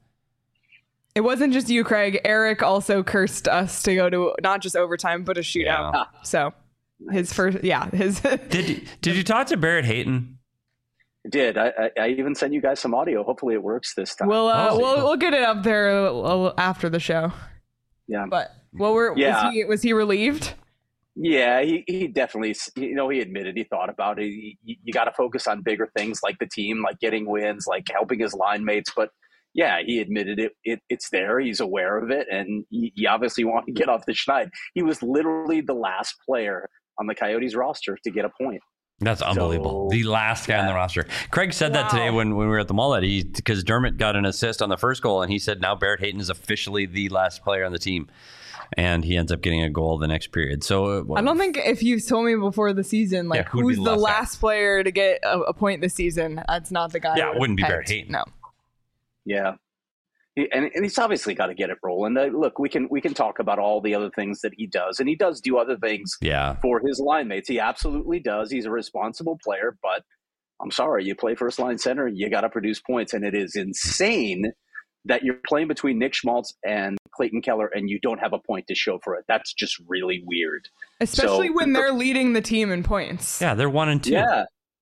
It wasn't just you, Craig. Eric also cursed us to go to not just overtime, but a shootout. Yeah. So his first, yeah, his. Did Did you talk to Barrett Hayton? did. I, I, I even sent you guys some audio. Hopefully it works this time. we'll uh, Oh. we'll we'll get it up there a little after the show. yeah. But what were Yeah. was he was he relieved? Yeah, he, he definitely, you know, he admitted he thought about it. He, you you got to focus on bigger things like the team, like getting wins, like helping his line mates. But yeah, he admitted it. it it's there. He's aware of it. And he, he obviously wanted to get off the schneid. He was literally the last player on the Coyotes roster to get a point. That's unbelievable. So- the last guy on the yeah. roster. Craig said that today Wow. when, when we were at the mullet. He because Dermott got an assist on the first goal, and he said now Barrett Hayton is officially the last player on the team, and he ends up getting a goal the next period. So uh, I don't think if you told me before the season, like Yeah, who'd be who's the the last guy? last player to get a, a point this season, that's not the guy. Yeah, I it would've wouldn't be picked. Barrett Hayton. No. Yeah. He, and, and he's obviously got to get it rolling. Uh, look, we can we can talk about all the other things that he does, and he does do other things Yeah. for his line mates. He absolutely does. He's a responsible player, but I'm sorry, you play first line center, you got to produce points, and it is insane that you're playing between Nick Schmaltz and Clayton Keller, and you don't have a point to show for it. That's just really weird. Especially So- when they're leading the team in points. Yeah, they're one and two. Yeah.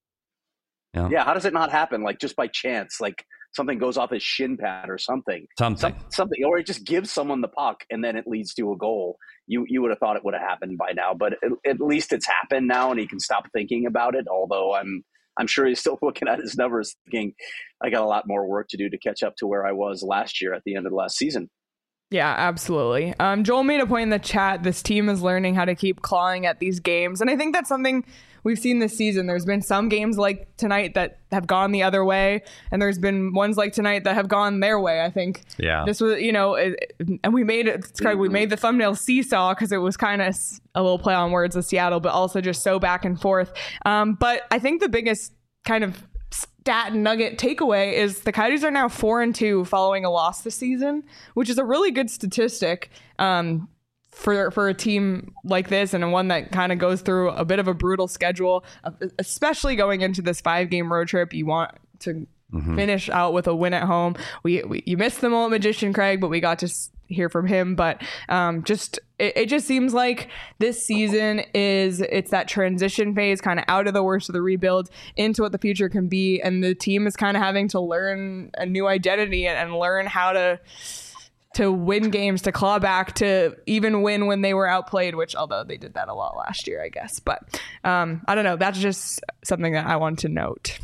Yeah. yeah, How does it not happen? Like just by chance, like something goes off his shin pad or something. Something. Some, something, or he just gives someone the puck and then it leads to a goal. You you would have thought it would have happened by now, but at, at least it's happened now, and he can stop thinking about it. Although I'm I'm sure he's still looking at his numbers, thinking I got a lot more work to do to catch up to where I was last year at the end of the last season. Yeah, absolutely. Um, Joel made a point in the chat. This team is learning how to keep clawing at these games. And I think that's something we've seen this season. There's been some games like tonight that have gone the other way, and there's been ones like tonight that have gone their way. I think Yeah. this was, you know, it, and we made it, Craig, we made the thumbnail seesaw because it was kind of a little play on words with Seattle, but also just so back and forth. Um, but I think the biggest kind of stat nugget takeaway is the Coyotes are now four and two following a loss this season, which is a really good statistic um, for for a team like this, and one that kind of goes through a bit of a brutal schedule, especially going into this five game road trip. You want to mm-hmm. finish out with a win at home. We, we you missed the Mullet Magician, Craig, but we got to hear from him. But um, just it, it just seems like this season is it's that transition phase, kind of out of the worst of the rebuild into what the future can be, and the team is kind of having to learn a new identity and, and learn how to to win games, to claw back, to even win when they were outplayed, which although they did that a lot last year, I guess. But um, I don't know. That's just something that I wanted to note.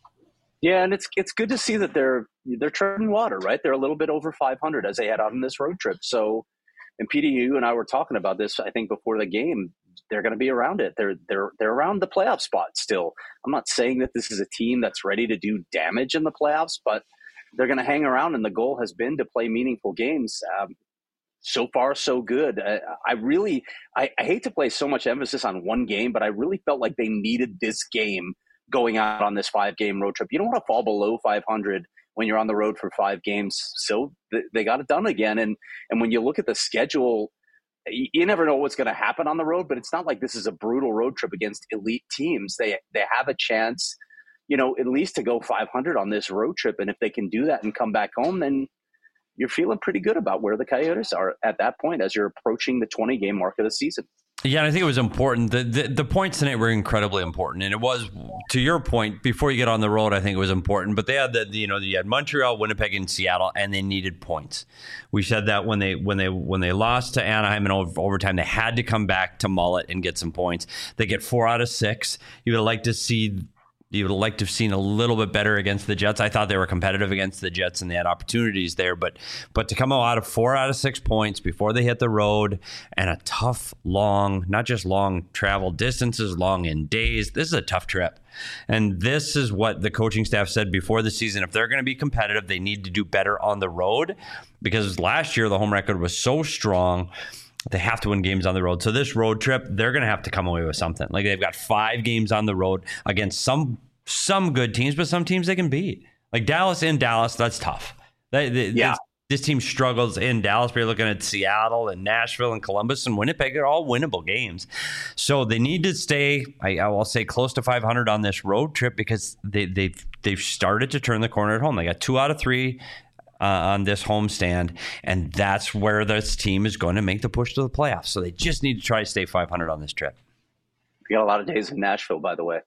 Yeah, and it's it's good to see that they're they're treading water, right? They're a little bit over five hundred as they head out on this road trip. So, and P D, you and I were talking about this, I think, before the game. They're going to be around it. They're they're they're around the playoff spot still. I'm not saying that this is a team that's ready to do damage in the playoffs, but they're going to hang around, and the goal has been to play meaningful games. Um, so far, so good. I, I really, I, I hate to place so much emphasis on one game, but I really felt like they needed this game going out on this five-game road trip. You don't want to fall below five hundred when you're on the road for five games. So th- they got it done again. And and when you look at the schedule, you, you never know what's going to happen on the road, but it's not like this is a brutal road trip against elite teams. They they have a chance, you know, at least to go five hundred on this road trip. And if they can do that and come back home, then you're feeling pretty good about where the Coyotes are at that point as you're approaching the twenty-game mark of the season. Yeah, and I think it was important. The, the the points tonight were incredibly important, and it was, to your point, before you get on the road, I think it was important. But they had the, you know, you had Montreal, Winnipeg, and Seattle, and they needed points. We said that when they when they when they lost to Anaheim in overtime, they had to come back to Mullet and get some points. They get four out of six. You would like to see. You would like to have seen a little bit better against the Jets. I thought they were competitive against the Jets and they had opportunities there. But but to come out of four out of six points before they hit the road and a tough, long, not just long travel distances, long in days, this is a tough trip. And this is what the coaching staff said before the season. If they're going to be competitive, they need to do better on the road, because last year the home record was so strong. They have to win games on the road. So this road trip, they're going to have to come away with something. Like, they've got five games on the road against some some good teams, but some teams they can beat. Like Dallas in Dallas, that's tough. They, they, yeah. this, this team struggles in Dallas. But you're looking at Seattle and Nashville and Columbus and Winnipeg. They're all winnable games. So they need to stay, I, I will say, close to five hundred on this road trip, because they, they've, they've started to turn the corner at home. They got two out of three Uh, on this homestand, and that's where this team is going to make the push to the playoffs. So they just need to try to stay five hundred on this trip. We got a lot of days in Nashville, by the way.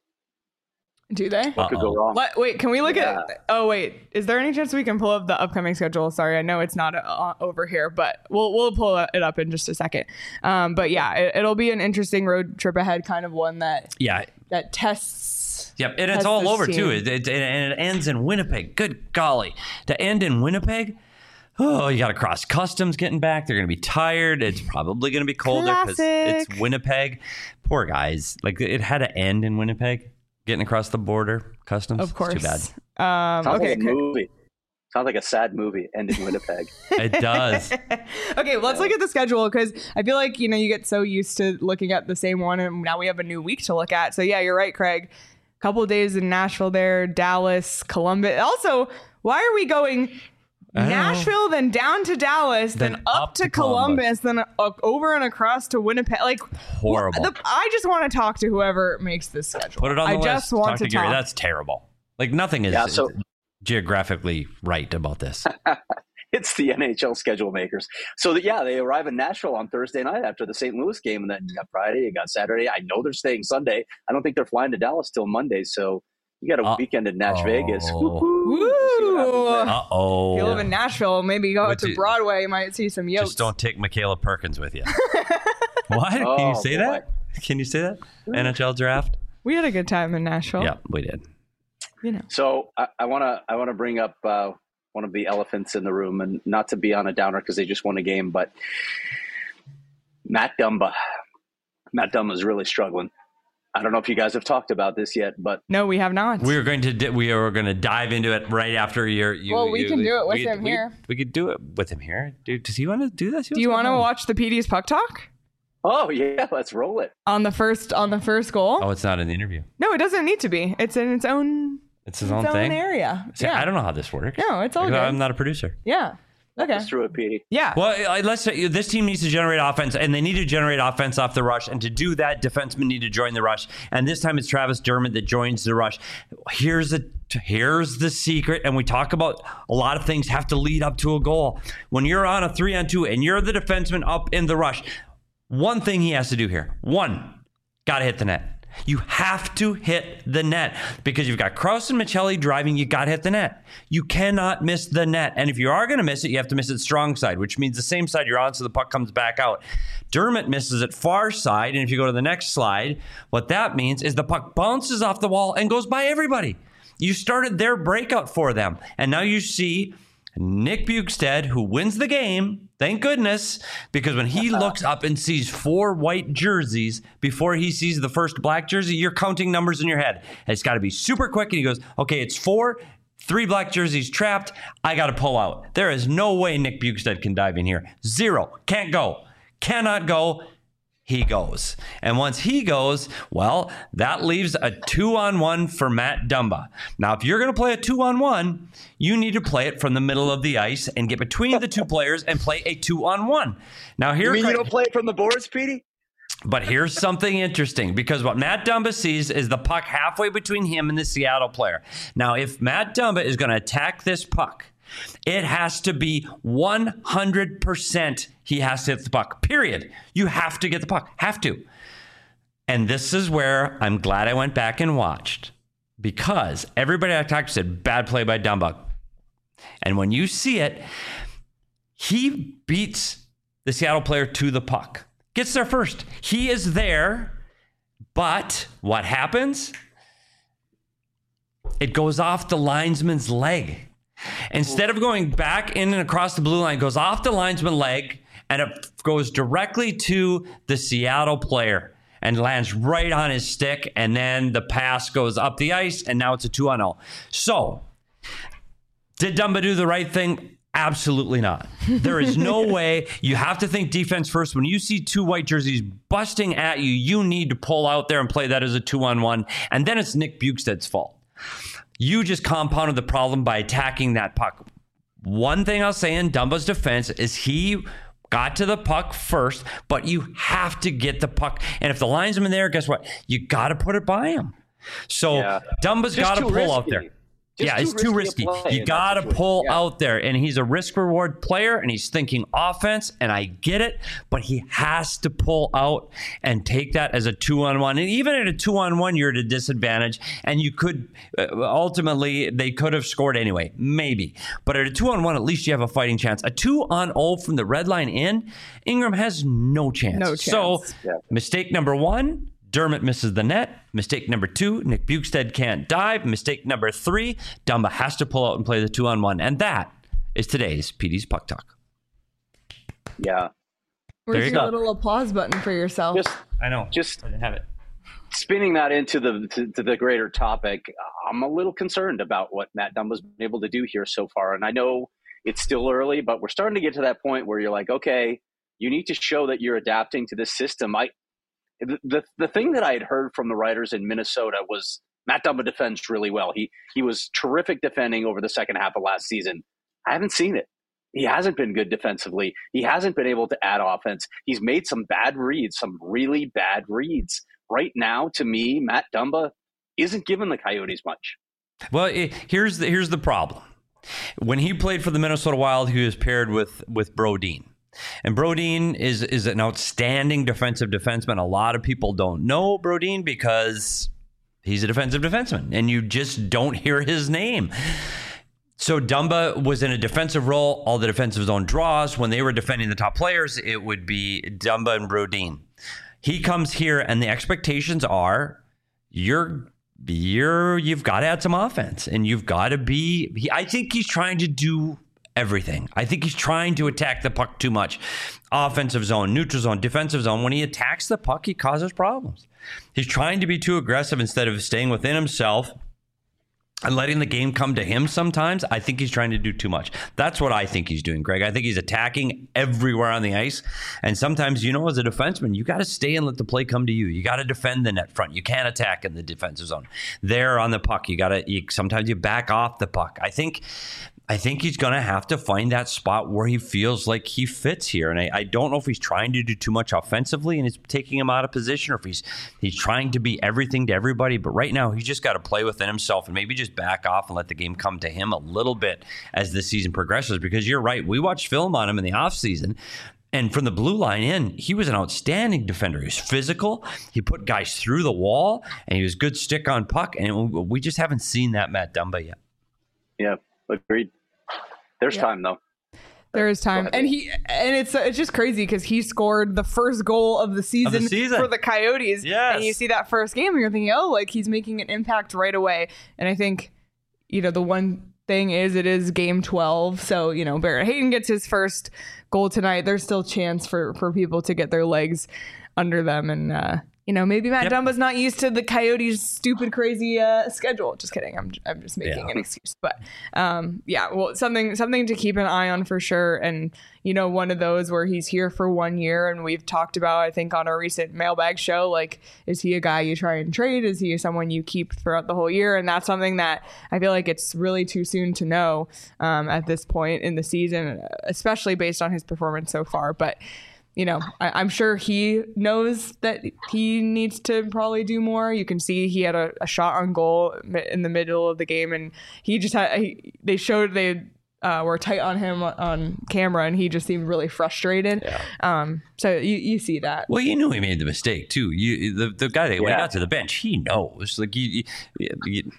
Do they? What could go wrong? What, wait, can we look Yeah. at? Oh, wait. Is there any chance we can pull up the upcoming schedule? Sorry, I know it's not uh, over here, but we'll we'll pull it up in just a second. Um, but yeah, it, it'll be an interesting road trip ahead, kind of one that Yeah. that tests. Yep, and it's tests all this over team. too. It, it, and it ends in Winnipeg. Good golly, to end in Winnipeg. Oh, you got to cross customs getting back. They're going to be tired. It's probably going to be colder because Classic. it's Winnipeg. Poor guys. Like, it had to end in Winnipeg. Getting across the border, customs. Of course. Too bad. Um, Sounds okay. like a movie. Sounds like a sad movie. End in Winnipeg. It does. Okay, well, let's look at the schedule, because I feel like, you know, you get so used to looking at the same one, and now we have a new week to look at. So yeah, you're right, Craig. Couple of days in Nashville there, Dallas, Columbus. Also, why are we going Nashville, then down to Dallas, then, Then up, up to to Columbus, then uh, over and across to Winnipeg? Like, Horrible. the- I just want to talk to whoever makes this schedule. Put it on the I list. just want talk to, to Gary. talk. That's terrible. Like, nothing is Yeah, so- geographically right about this. It's the N H L schedule makers. So, that, yeah, they arrive in Nashville on Thursday night after the Saint Louis game, and then you got Friday, you got Saturday. I know they're staying Sunday. I don't think they're flying to Dallas till Monday, so you got a Uh, weekend in Nash oh. Vegas. Woo! Uh-oh. If you live in Nashville, maybe go Would to you- Broadway, you might see some yotes. Just don't take Michaela Perkins with you. What? Can Oh, you say boy. that? Can you say that? N H L draft? We had a good time in Nashville. Yeah, we did. You know. So I want to I want to bring up uh, one of the elephants in the room, and not to be on a downer because they just won a game, but Matt Dumba. Matt Dumba is really struggling. I don't know if you guys have talked about this yet, but No, we have not. We are going to di- we are going to dive into it right after your. You, Well, we you, can do it with we, him we, here. We could do it with him here, dude. Does he want to do this? Do you want to watch the P D's Puck Talk oh yeah, let's roll it. on the first on the first goal? Oh, it's not in the interview. No, it doesn't need to be. It's in its own. It's his its own thing. area. See, yeah. I don't know how this works. No, it's all Because good. I'm not a producer. Yeah. Okay. Let's throw it, Petey. Yeah. Well, I- let's say this team needs to generate offense, and they need to generate offense off the rush. And to do that, defensemen need to join the rush. And this time, it's Travis Dermott that joins the rush. Here's the here's the secret. And we talk about a lot of things have to lead up to a goal. When you're on a three on two, and you're the defenseman up in the rush, one thing he has to do here: one, got to hit the net. You have to hit the net because you've got Krause and Michelli driving. You got to hit the net. You cannot miss the net. And if you are going to miss it, you have to miss it strong side, which means the same side you're on so the puck comes back out. Dermott misses it far side. And if you go to the next slide, what that means is the puck bounces off the wall and goes by everybody. You started their breakout for them. And now you see Nick Bjugstad, who wins the game, thank goodness, because when he looks up and sees four white jerseys before he sees the first black jersey, you're counting numbers in your head. And it's got to be super quick. And he goes, okay, it's four, three black jerseys trapped. I got to pull out. There is no way Nick Bjugstad can dive in here. Zero. Can't go. Cannot go. He goes. And once he goes, well, that leaves a two-on-one for Matt Dumba. Now, if you're going to play a two-on-one, you need to play it from the middle of the ice and get between the two players and play a two-on-one. Now, here, You mean you don't play it from the boards, Petey? but here's something interesting, because what Matt Dumba sees is the puck halfway between him and the Seattle player. Now, if Matt Dumba is going to attack this puck, it has to be one hundred percent he has to hit the puck, period. You have to get the puck. Have to. And this is where I'm glad I went back and watched, because everybody I talked to said, bad play by Dumba. And when you see it, he beats the Seattle player to the puck. Gets there first. He is there, but what happens? It goes off the linesman's leg. Instead of going back in and across the blue line, it goes off the linesman's leg, and it goes directly to the Seattle player and lands right on his stick, and then the pass goes up the ice, and now it's a two on oh. So, did Dumba do the right thing? Absolutely not. There is no way. You have to think defense first. When you see two white jerseys busting at you, you need to pull out there and play that as a two-on-one, and then it's Nick Bjugstad's fault. You just compounded the problem by attacking that puck. One thing I'll say in Dumba's defense is he got to the puck first, but you have to get the puck. And if the linesman there, guess what? You got to put it by him. So Yeah. Dumba's Just got to too pull risky. out there. Just yeah, too it's too risky risky. a play You in got to that pull situation. Yeah. out there. And he's a risk reward player, and he's thinking offense, and I get it, but he has to pull out and take that as a two-on-one. And even at a two-on-one, you're at a disadvantage, and you could uh, ultimately, they could have scored anyway, maybe. But at a two-on-one, at least you have a fighting chance. A two-on-oh from the red line in, Ingram has no chance. No So, chance. Yeah. mistake number one, Dermott misses the net. Mistake number two, Nick Bjugstad can't dive. Mistake number three, Dumba has to pull out and play the two-on-one. And that is today's P D's Puck Talk. Yeah. Where's you your go. little applause button for yourself? Just I know. just I didn't have it. spinning that into the to, to the greater topic, I'm a little concerned about what Matt Dumba's been able to do here so far. And I know it's still early, but we're starting to get to that point where you're like, okay, you need to show that you're adapting to this system. I the the, the thing that I had heard from the writers in Minnesota was Matt Dumba defends really well. He he was terrific defending over the second half of last season. I haven't seen it. He hasn't been good defensively. He hasn't been able to add offense. He's made some bad reads, some really bad reads. Right now, to me, Matt Dumba isn't giving the Coyotes much. Well, it, here's the here's the problem. When he played for the Minnesota Wild, he was paired with with Brodin. And Brodin is is an outstanding defensive defenseman. A lot of people don't know Brodin because he's a defensive defenseman, and you just don't hear his name. So Dumba was in a defensive role, all the defensive zone draws. When they were defending the top players, it would be Dumba and Brodin. He comes here, and the expectations are you're you're you've got to add some offense, and you've got to be. He, I think he's trying to do everything. I think he's trying to attack the puck too much. Offensive zone, neutral zone, defensive zone. When he attacks the puck, he causes problems. He's trying to be too aggressive instead of staying within himself and letting the game come to him sometimes. I think he's trying to do too much. That's what I think he's doing, Greg. I think he's attacking everywhere on the ice. And sometimes, you know, as a defenseman, you got to stay and let the play come to you. You got to defend the net front. You can't attack in the defensive zone. There on the puck, you got to, sometimes you back off the puck. I think I think he's going to have to find that spot where he feels like he fits here. And I, I don't know if he's trying to do too much offensively and it's taking him out of position, or if he's he's trying to be everything to everybody. But right now, he's just got to play within himself and maybe just back off and let the game come to him a little bit as the season progresses. Because you're right, we watched film on him in the offseason. And from the blue line in, he was an outstanding defender. He was physical. He put guys through the wall, and he was good stick on puck. And we just haven't seen that Matt Dumba yet. Yeah, agreed. There's yeah. time though. There is time, and he and it's it's just crazy because he scored the first goal of the season, of the season. for the Coyotes. Yes. And you see that first game, and you're thinking, oh, like he's making an impact right away. And I think, you know, the one thing is it is game twelve, so you know Barrett Hayton gets his first goal tonight. There's still chance for for people to get their legs under them, and uh, you know, maybe Matt yep. Dumba's not used to the Coyotes' stupid, crazy uh, schedule. Just kidding. I'm I'm just making yeah. an excuse. But um, yeah, well, something something to keep an eye on for sure. And, you know, one of those where he's here for one year. And we've talked about, I think, on a recent mailbag show, like, is he a guy you try and trade? Is he someone you keep throughout the whole year? And that's something that I feel like it's really too soon to know um, at this point in the season, especially based on his performance so far. But you know, I, I'm sure he knows that he needs to probably do more. You can see he had a, a shot on goal in the middle of the game, and he just had. He, they showed they uh, were tight on him on camera, and he just seemed really frustrated. Yeah. Um, so you, you see that. Well, you knew he made the mistake too. You the the guy that yeah. when he got to the bench, he knows. Like you, you, you,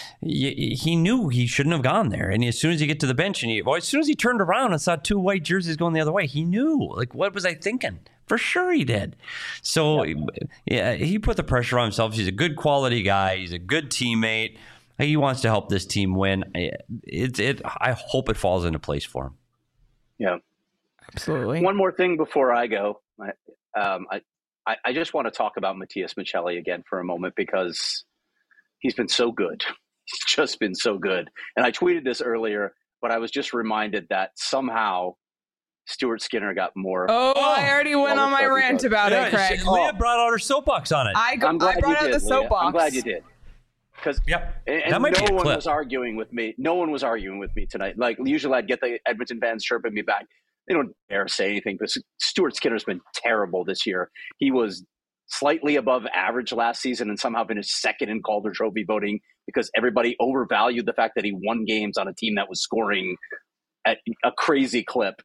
you, he knew he shouldn't have gone there. And as soon as you get to the bench, and he, well, as soon as he turned around and saw two white jerseys going the other way, he knew. Like, what was I thinking? For sure he did. So yeah, yeah he put the pressure on himself. He's a good quality guy. He's a good teammate. He wants to help this team win. It, it, I hope it falls into place for him. Yeah, absolutely. One more thing before I go. I, um, I, I just want to talk about Matias Maccelli again for a moment because he's been so good. He's just been so good. And I tweeted this earlier, but I was just reminded that somehow Stuart Skinner got more. Oh, I already went on my rant about yeah, it, Craig. Leah brought out her soapbox on it. I, go, I brought out did, the soapbox. Leah. I'm glad you did. Because yep. and, and no one was arguing with me. No one was arguing with me tonight. Like usually, I'd get the Edmonton fans chirping me back. They don't dare say anything. But Stuart Skinner's been terrible this year. He was slightly above average last season, and somehow finished second in Calder Trophy voting because everybody overvalued the fact that he won games on a team that was scoring at a crazy clip.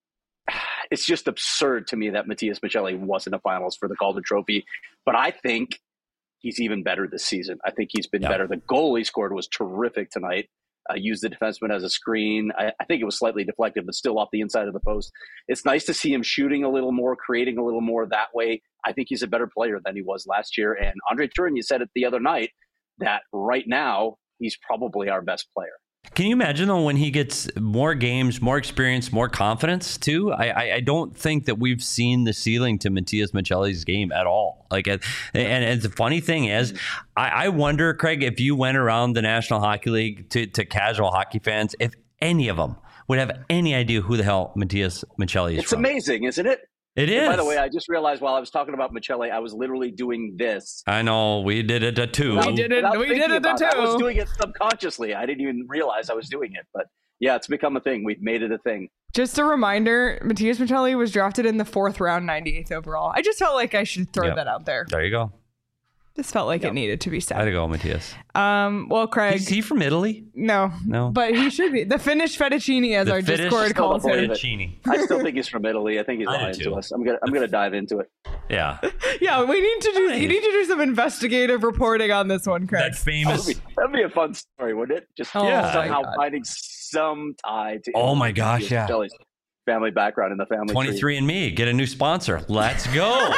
It's just absurd to me that Matias Maccelli wasn't a finalist for the Calder Trophy. But I think he's even better this season. I think he's been yeah. better. The goal he scored was terrific tonight. Uh, used the defenseman as a screen. I, I think it was slightly deflected, but still off the inside of the post. It's nice to see him shooting a little more, creating a little more that way. I think he's a better player than he was last year. And Andre Tourigny said it the other night that right now he's probably our best player. Can you imagine, though, when he gets more games, more experience, more confidence, too? I, I, I don't think that we've seen the ceiling to Matias Maccelli's game at all. Like, and, and the funny thing is, I, I wonder, Craig, if you went around the National Hockey League to, to casual hockey fans, if any of them would have any idea who the hell Matias Maccelli is It's from. amazing, isn't it? It is. And by the way, I just realized while I was talking about Maccelli, I was literally doing this. I know. We did it at two. We did it. We did it at two. I was doing it subconsciously. I didn't even realize I was doing it. But yeah, it's become a thing. We've made it a thing. Just a reminder, Matias Maccelli was drafted in the fourth round, ninety-eighth overall. I just felt like I should throw yep. that out there. There you go. Just felt like yep. it needed to be said. Way to go, Matias. Um, well, Craig. Is he from Italy? No. No. But he should be. The Finnish fettuccine, as the our Finnish Discord calls him. Fettuccine. I still think he's from Italy. I think he's lying to us. I'm gonna I'm gonna dive into it. Yeah. Yeah, we need to do you need to do some investigative reporting on this one, Craig. That famous That'd be, that'd be a fun story, wouldn't it? Just oh, yeah. somehow finding some tie to Oh my gosh, yeah. Maccelli's family background in the family twenty-three and me, get a new sponsor. Let's go.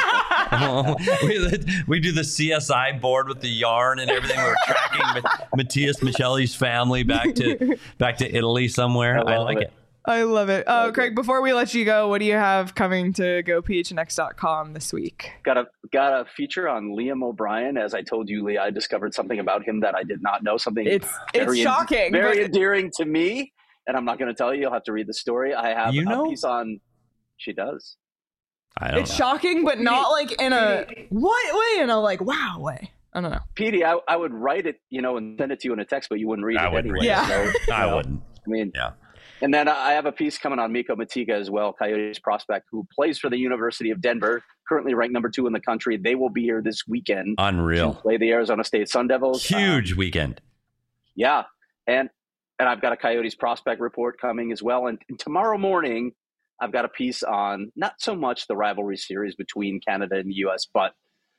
we, we do the C S I board with the yarn and everything. We're tracking Matthias Maccelli's family back to back to Italy somewhere. I, I like it. it. I love it. Oh, uh, Craig, before we let you go, what do you have coming to go P H N X dot com this week? Got a got a feature on Liam O'Brien. As I told you, Lee, I discovered something about him that I did not know. Something it's it's shocking, en- very but... endearing to me. And I'm not going to tell you. You'll have to read the story. I have you know? a piece on. She does. I don't it's know. shocking, but not like in a what way? In a like wow way. I don't know. Petey, I, I would write it, you know, and send it to you in a text, but you wouldn't read I it wouldn't anyway. read it. So, I know, wouldn't. I mean, yeah. And then I have a piece coming on Miko Matiga as well, Coyotes prospect, who plays for the University of Denver, currently ranked number two in the country. They will be here this weekend. Unreal. To play the Arizona State Sun Devils. Huge um, weekend. Yeah. And and I've got a Coyotes prospect report coming as well. And, and tomorrow morning, I've got a piece on not so much the rivalry series between Canada and the U S, but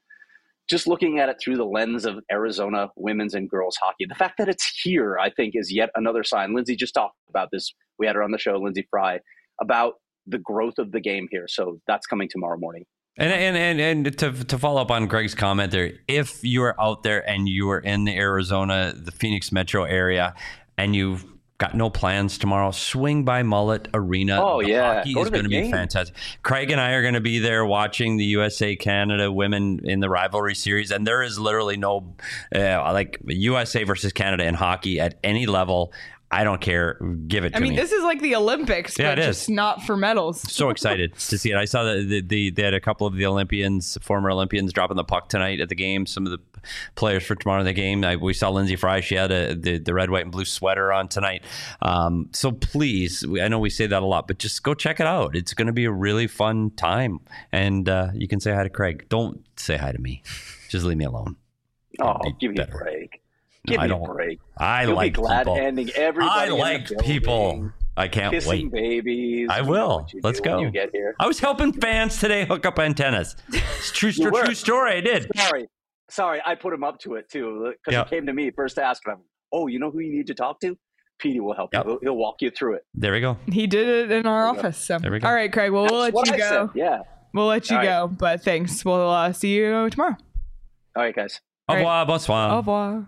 just looking at it through the lens of Arizona women's and girls hockey. The fact that it's here, I think, is yet another sign. Lindsay just talked about this. We had her on the show, Lindsay Fry, about the growth of the game here. So that's coming tomorrow morning. And and and, and to to follow up on Greg's comment there, if you are out there and you are in the Arizona, the Phoenix metro area, and you've got no plans tomorrow, swing by Mullet Arena. Oh, the yeah. hockey Go is to the going to be game. fantastic. Craig and I are going to be there watching the U S A Canada women in the rivalry series, and there is literally no uh, like U S A versus Canada in hockey at any level. I don't care. Give it to I mean, me. this is like the Olympics, Yeah, but it just is. not for medals. So excited to see it. I saw that the, the, they had a couple of the Olympians, former Olympians, dropping the puck tonight at the game. Some of the players for tomorrow in the game. I, we saw Lindsay Fry. She had a, the, the red, white, and blue sweater on tonight. Um, so please, I know we say that a lot, but just go check it out. It's going to be a really fun time. And uh, you can say hi to Craig. Don't say hi to me. Just leave me alone. Oh, It'd be give me better. a break. No, Give I me don't. a break. I You'll like be glad people. ending everybody I in the like building, people. I can't kissing wait. babies. I You know will. what you Let's do when go. You get here. I was helping fans today hook up antennas. It's true, You were. true story. I did. Sorry, sorry. I put him up to it too because Yeah. he came to me first to ask him. Oh, you know who you need to talk to? Petey will help Yep. you. He'll, he'll walk you through it. There we go. He did it in our There we go. office. So. There we go. All right, Craig. Well, we'll That's let what you I go. said. Yeah. We'll let you All right. go. But thanks. We'll uh, see you tomorrow. All right, guys. Au All revoir, bonsoir. Au revoir.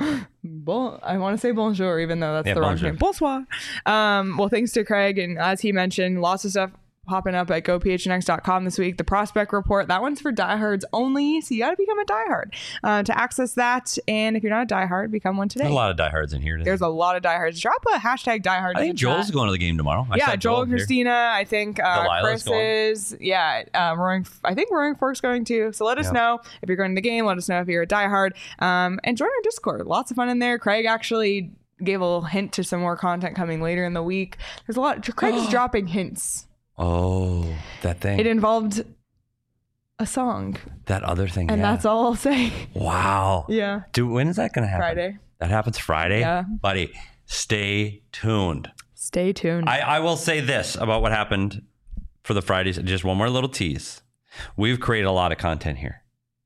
Bon, I want to say bonjour, even though that's Yeah, the wrong bonjour. name. Bonsoir. Um, well, thanks to Craig. And as he mentioned, lots of stuff popping up at go P H N X dot com this week. The prospect report, that one's for diehards only. So you got to become a diehard uh, to access that. And if you're not a diehard, become one today. There's a lot of diehards in here today. There's a lot of diehards. Drop a hashtag diehard. I in think the Joel's chat. going to the game tomorrow. I Yeah, saw Joel and here. Christina. I think uh, Delilah's Chris is. Yeah, um, Roaring. I think Roaring Fork's going too. So let us Yeah. know if you're going to the game. Let us know if you're a diehard. Um, and join our Discord. Lots of fun in there. Craig actually gave a little hint to some more content coming later in the week. There's a lot. Craig is dropping hints. Oh, that thing. It involved a song, that other thing. and yeah. that's all I'll say. Wow. Yeah, Dude, when is that going to happen? Friday. That happens Friday? Yeah. Buddy, stay tuned. Stay tuned. I, I will say this about what happened for the Fridays. Just one more little tease. We've created a lot of content here.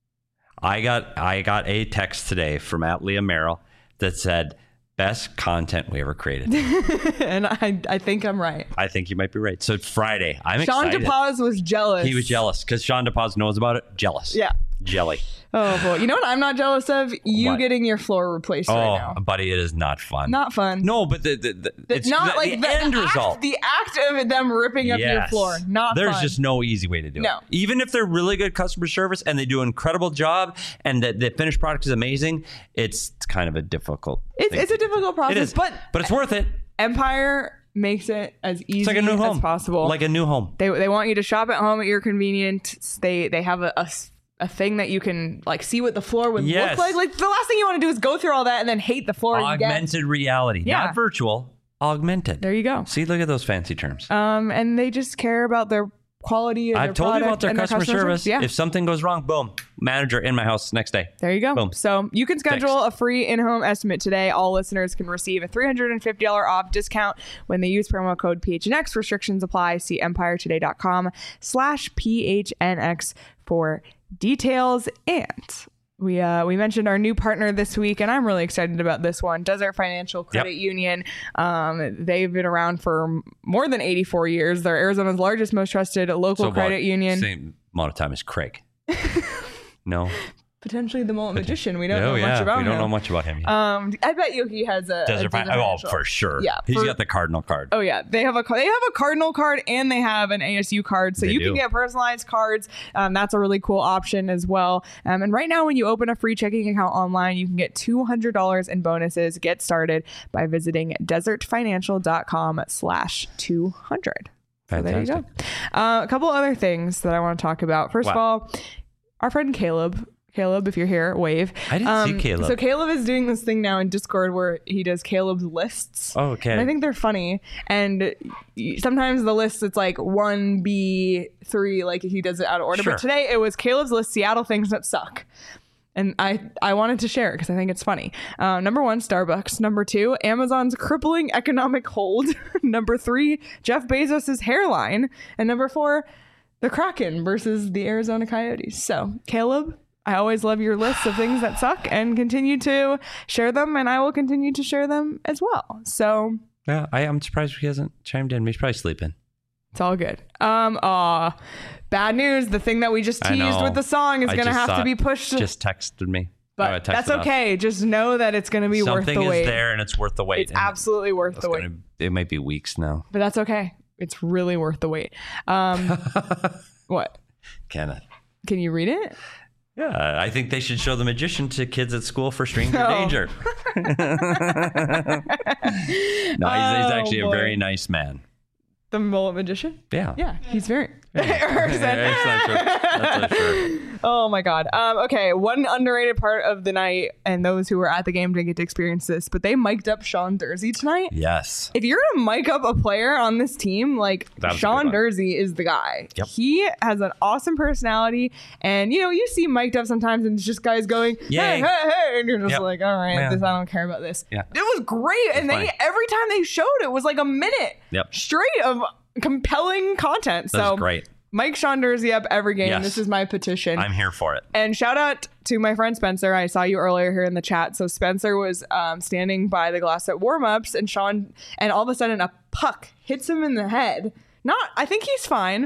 I got I got a text today from at Leah Merrill that said, best content we ever created. and I, I think I'm right. I think you might be right. So Friday, I'm Sean excited. DePaz was jealous. He was jealous because Sean DePaz knows about it. Jealous. Yeah. Jelly. Oh boy. You know what I'm not jealous of? You What? getting your floor replaced Oh, right now. buddy, it is not fun. Not fun. No, but the, the, the, The- it's not the, like the the, end the result. Act, the act of them ripping up your Yes. floor. Not There's fun. just no easy way to do No. it. Even if they're really good customer service and they do an incredible job and that the finished product is amazing, it's kind of a difficult It's, thing it's a to do. difficult process, It is, but but it's worth it. Empire makes it as easy It's like a new as home. possible. Like a new home. They they want you to shop at home at your convenience. They they have a, a s- a thing that you can like see what the floor would Yes. look like. Like the last thing you want to do is go through all that and then hate the floor you get. Augmented reality. Yeah. Not virtual. Augmented. There you go. See, look at those fancy terms. Um, and they just care about their quality of I've their told you product about their and customer, service. Yeah. If something goes wrong, boom, manager in my house next day. There you go. Boom. So you can schedule a free in-home estimate today. All listeners can receive a three hundred fifty dollars off discount when they use promo code P H N X. Restrictions apply. See empiretoday.com slash PHNX for details. And we uh, we mentioned our new partner this week, and I'm really excited about this one. Desert Financial Credit Yep. Union. Um, they've been around for more than eighty-four years. They're Arizona's largest, most trusted local So credit about union. Same amount of time as Craig. No. potentially the Mullet Magician. We don't oh, know yeah. much about him. We don't know much about him. Yet. Um, I bet you he has a Desert a Fin- Desert oh, Financial. for sure. Yeah, he's for- got the Cardinal card. Oh yeah, they have a they have a Cardinal card and they have an A S U card, so They you do. can get personalized cards. Um, that's a really cool option as well. Um, and right now, when you open a free checking account online, you can get two hundred dollars in bonuses. Get started by visiting desertfinancial.com slash two hundred. So there you go. Uh, a couple other things that I want to talk about. First Wow. of all, our friend Caleb. Caleb, if you're here, wave. I didn't see Caleb. So Caleb is doing this thing now in Discord where he does Caleb's lists. Oh, okay. And I think they're funny. And y- sometimes the list, it's like one B three, like he does it out of order. Sure. But today it was Caleb's list, Seattle things that suck. And I, I wanted to share it because I think it's funny. Uh, number one, Starbucks. Number two, Amazon's crippling economic hold. Number three, Jeff Bezos' hairline. And number four, the Kraken versus the Arizona Coyotes. So, Caleb, I always love your lists of things that suck and continue to share them. And I will continue to share them as well. So, Yeah, I, I'm surprised he hasn't chimed in. He's probably sleeping. it's all good. Um, aw, bad news. The thing that we just I teased know. with the song is I going to just have saw to it. be pushed. Just texted me. But Oh, I texted that's us. okay. Just know that it's going to be worth Something the wait. is there and it's worth the wait. It's and absolutely worth it's the wait. gonna- It might be weeks now. But that's okay. It's really worth the wait. Um, what? Kenneth. Can you read it? Yeah, I think they should show The Magician to kids at school for stranger Oh. danger. no, he's, he's Oh, actually boy. a very nice man. The Mullet Magician? Yeah. Yeah, he's very. That's not true. That's not true. Oh my God. Um, okay, one underrated part of the night, and those who were at the game didn't get to experience this, but they mic'd up Sean Dursey tonight. Yes. If you're gonna mic up a player on this team, like That was a Sean good one. Dursey is the guy. Yep. He has an awesome personality, and you know you see mic'd up sometimes, and it's just guys going, Yay. "Hey, hey, hey," and you're just Yep. like, "All right, Yeah. this I don't care about this." Yeah. It was great, and they funny. every time they showed it was like a minute Yep. straight of compelling content. That's so great. Mike Sean Dursey up every game. Yes. This is my petition. I'm here for it. And shout out to my friend Spencer. I saw you earlier here in the chat. So Spencer was um, standing by the glass at warmups, and Sean, and all of a sudden a puck hits him in the head. Not, I think he's fine.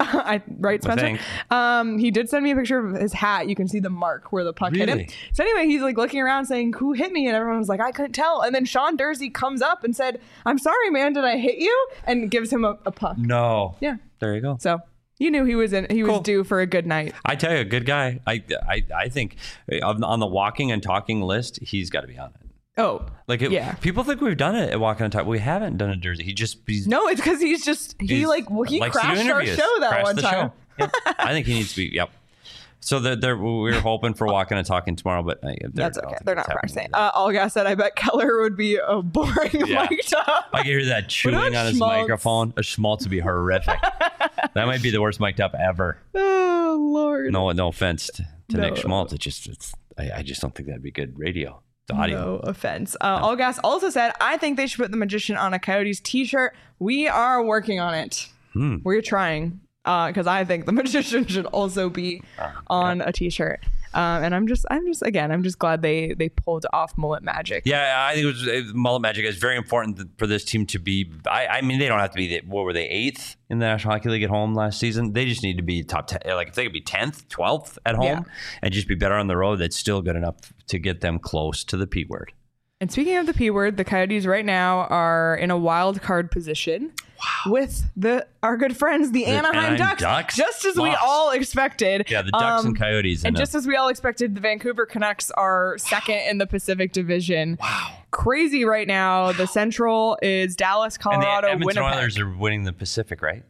I right, Spencer. think. Um, he did send me a picture of his hat. You can see the mark where the puck hit him. Really? So anyway, he's like looking around saying, "Who hit me?" And everyone was like, "I couldn't tell." And then Sean Dursey comes up and said, "I'm sorry, man. Did I hit you?" And gives him a, a puck. No. Yeah. There you go. So you knew he was in. He was Cool. due for a good night. I tell you, a good guy. I I, I think on on the walking and talking list, he's got to be on it. Oh, Like, it, yeah. people think we've done it at Walking and Talk. We haven't done a Jersey. He just he's, No, it's because he's just he he's- like well, he likes to do crashed our interviews. show that Crashed one the time. show. Yep. I think he needs to be. Yep. So they're, they're, we were hoping for Walking and Talking tomorrow, but uh, they're, That's I don't okay. think They're it's not happening practicing. either. Uh, Olga said, "I bet Keller would be a boring Yeah. mic'd up." I can hear that chewing about on his schmaltz? microphone. A schmaltz would be horrific. That might be the worst mic'd up ever. Oh Lord. No, no offense to, to No. Nick Schmaltz. It just, it's, I, I just don't think that'd be good radio. The audio. No offense. Uh, Olgas also said, "I think they should put the Magician on a Coyotes t-shirt. We are working on it. Hmm. We're trying because I think the Magician should also be on a t-shirt." Um, and I'm just, I'm just, again, I'm just glad they they pulled off Mullet Magic. Yeah, I think it was uh, Mullet Magic is very important th- for this team to be. I, I mean, they don't have to be. The, what were they, eighth in the National Hockey League at home last season? They just need to be top ten. Like if they could be tenth, twelfth at home, Yeah. and just be better on the road, that's still good enough to get them close to the P word. And speaking of the P word, the Coyotes right now are in a wild card position with the our good friends, the, Anaheim, Anaheim Ducks, Ducks? just as we Lost. all expected. Yeah, the Ducks Um, and Coyotes. And in a- just as we all expected, the Vancouver Canucks are second in the Pacific Division. Wow. Crazy right now. The Central is Dallas, and the Colorado, Edmonton Winnipeg. Oilers are winning the Pacific, right?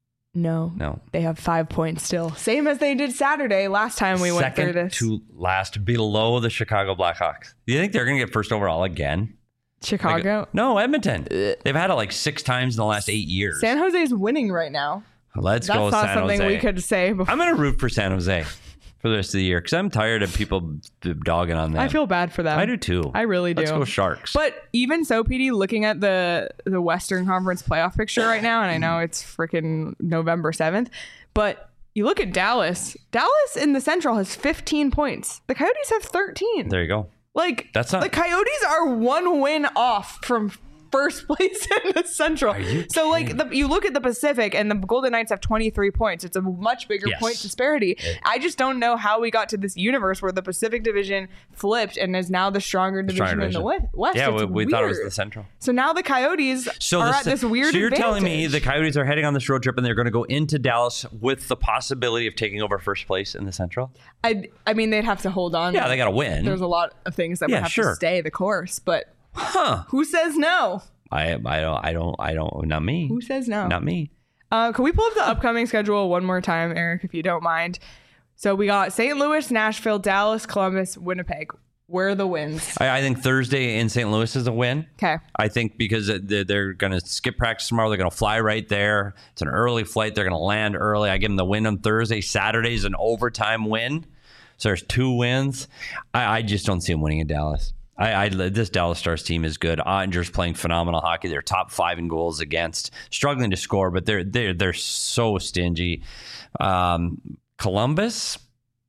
No. No. They have five points still. Same as they did Saturday last time we went Second through this. to last, below the Chicago Blackhawks. Do you think they're going to get first overall again? Chicago. Like, no, Edmonton. They've had it like six times in the last eight years. San Jose's winning right now. Let's That's go, not San something Jose. we could say before. I'm going to root for San Jose for the rest of the year because I'm tired of people dogging on them. I feel bad for them. I do too. I really do. Let's go Sharks. But even so, P D, looking at the the Western Conference playoff picture right now, and I know it's freaking November seventh, but you look at Dallas. Dallas in the Central has fifteen points. The Coyotes have thirteen. there you go. Like That's not- the Coyotes are one win off from first place in the Central. So like the, you look at the Pacific and the Golden Knights have twenty-three points. It's a much bigger Yes. point disparity. It, I just don't know how we got to this universe where the Pacific Division flipped and is now the stronger division Stronger in the division. West. Yeah, It's we, we weird. thought it was the Central. So now the Coyotes So, are the, at this weird so you're telling me advantage. the Coyotes are heading on this road trip and they're going to go into Dallas with the possibility of taking over first place in the Central? I, I mean, they'd have to hold on. Yeah, they got to win. There's a lot of things that Yeah, would have sure. to stay the course, but Huh. who says no? I I don't I don't I don't not me. Who says no? Not me. Uh, can we pull up the upcoming schedule one more time, Eric, if you don't mind? So we got Saint Louis, Nashville, Dallas, Columbus, Winnipeg. Where are the wins? I, I think Thursday in Saint Louis is a win. Okay. I think because they're, they're going to skip practice tomorrow. They're going to fly right there. It's an early flight. They're going to land early. I give them the win on Thursday. Saturday is an overtime win. So there's two wins. I, I just don't see them winning in Dallas. I, I this Dallas Stars team is good. Ottinger's playing phenomenal hockey. They're top five in goals against, struggling to score, but they're they're they're so stingy. Um, Columbus,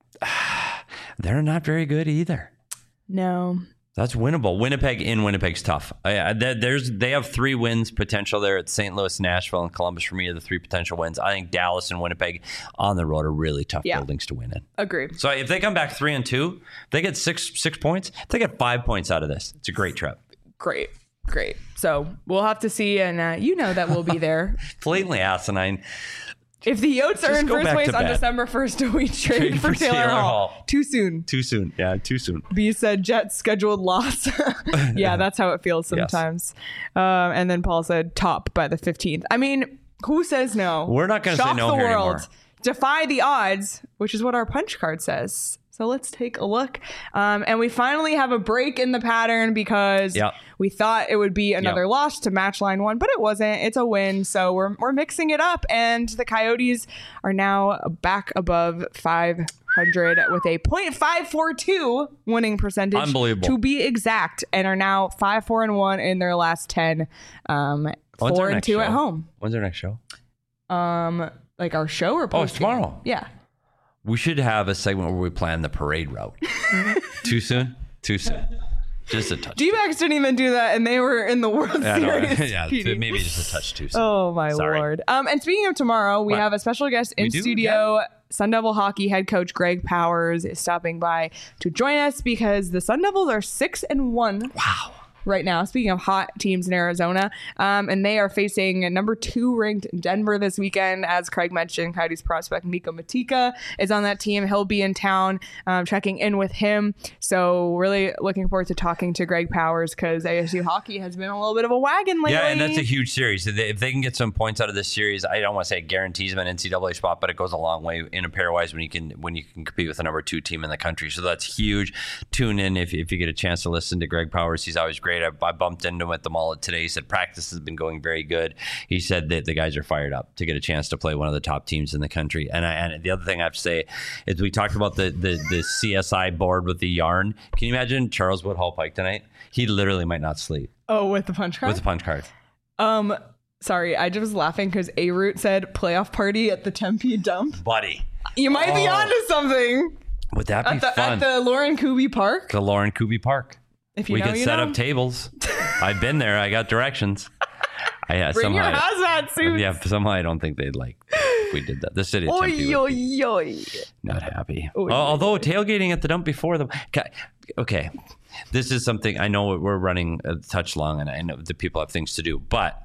they're not very good either. No. That's winnable. Winnipeg in Winnipeg's tough. I, I, there's they have three wins potential there at Saint Louis, Nashville, and Columbus. For me, are the three potential wins. I think Dallas and Winnipeg on the road are really tough Yeah. buildings to win in. Agreed. So if they come back three and two, if they get six six points. If they get five points out of this, it's a great trip. Great. Great. So we'll have to see, and uh, you know that we'll be there. Blatantly asinine. If the Yotes are Just in go first back place to on bed. December first, we trade, Trade for, for Taylor, Taylor Hall. Hall. Too soon. Too soon. Yeah, too soon. B said Jets scheduled loss. Yeah, that's how it feels Yes. sometimes. Um, and then Paul said top by the fifteenth. I mean, who says no? We're not gonna say Shock no the here world. anymore. Defy the odds, which is what our punch card says. So let's take a look. Um, and we finally have a break in the pattern because Yep. we thought it would be another Yep. loss to match line one, but it wasn't. It's a win. So we're, we're mixing it up. And the Coyotes are now back above five hundred with a point five four two winning percentage. Unbelievable. To be exact. And are now five, four, and one in their last ten. Um, When's four our and next two show? at home. When's our next show? Um, like our show or Oh, it's post tomorrow. Yeah. We should have a segment where we plan the parade route. Too soon? Too soon. Just a touch. D-backs didn't even do that, and they were in the World Yeah, no, Series. yeah, P D. maybe just a touch too soon. Oh my Sorry. lord! Um, and speaking of tomorrow, we What? have a special guest in We do? studio. Sun Devil hockey head coach Greg Powers is stopping by to join us because the Sun Devils are six and one. Wow. Right now, speaking of hot teams in Arizona, um, and they are facing number two ranked Denver this weekend. As Craig mentioned, Coyotes prospect Miko Matika is on that team. He'll be in town, um, checking in with him. So really looking forward to talking to Greg Powers because A S U hockey has been a little bit of a wagon lately. Yeah, and that's a huge series. If they, if they can get some points out of this series, I don't want to say it guarantees them an N C double A spot, but it goes a long way in a pairwise when you can when you can compete with the number two team in the country. So that's huge. Tune in if, if you get a chance to listen to Greg Powers. He's always great. I, I bumped into him at the Mullet today. He said practice has been going very good. He said that the guys are fired up to get a chance to play one of the top teams in the country. And I, and the other thing I have to say is we talked about the, the, the C S I board with the yarn. Can you imagine Charles Woodhull Pike tonight? He literally might not sleep Oh, with the punch card? with a punch card. Um, sorry, I just was laughing because A Root said playoff party at the Tempe dump. Buddy, You might be Oh. onto something would that be at the, fun? at the Lauren Kuby Park. the Lauren Kuby Park. If you We know, could you set know. up tables. I've been there. I got directions. I yeah, Bring your somehow, hazmat suits. yeah, somehow I don't think they'd like if we did that. The city of Tempe Oi, would be oi, oi. not happy. Oy, Al- Although tailgating at the dump before them. Okay, this is something I know we're running a touch long, and I know the people have things to do. But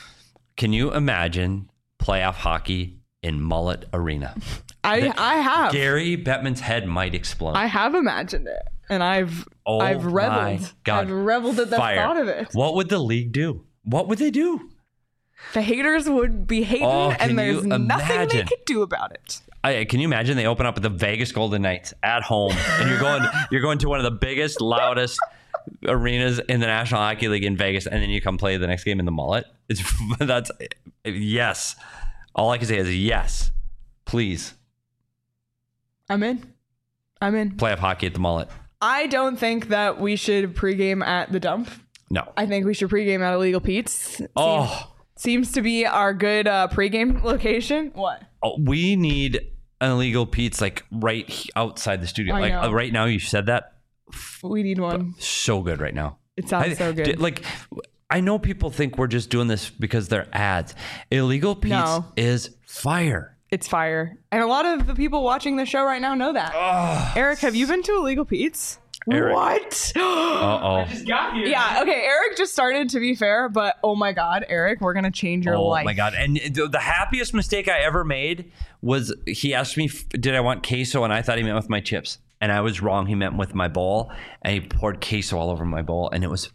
can you imagine playoff hockey in Mullet Arena? I The- I have. Gary Bettman's head might explode. I have imagined it, and I've Oh I've my reveled. God. I've reveled at the Fire. thought of it. What would the league do? What would they do? The haters would be hating, Oh, can and there's you nothing they imagine? could do about it. I, can you imagine they open up the Vegas Golden Knights at home, and you're going you're going to one of the biggest, loudest arenas in the National Hockey League in Vegas, and then you come play the next game in the Mullet? It's that's yes. All I can say is yes. Please I'm in. I'm in. playoff hockey at the Mullet. I don't think that we should pregame at the dump. No. I think we should pregame at Illegal Pete's. Oh, Seems to be our good uh, pregame location. What? oh, we need an illegal Pete's like right he- outside the studio. I Like know. uh, right now, you said that We need one. so good right now. It sounds I- so good. d- Like I know people think we're just doing this because they're ads. Illegal Pete's No. is fire. It's fire. And a lot of the people watching the show right now know that. Oh, Eric, have you been to Illegal Pete's? Eric. What? Uh-oh. Yeah, okay, Eric just started, to be fair, but oh my God, Eric, we're going to change your Oh life. my God. And the the happiest mistake I ever made was he asked me, f- did I want queso? And I thought he meant with my chips. And I was wrong. He meant with my bowl. And he poured queso all over my bowl. And it was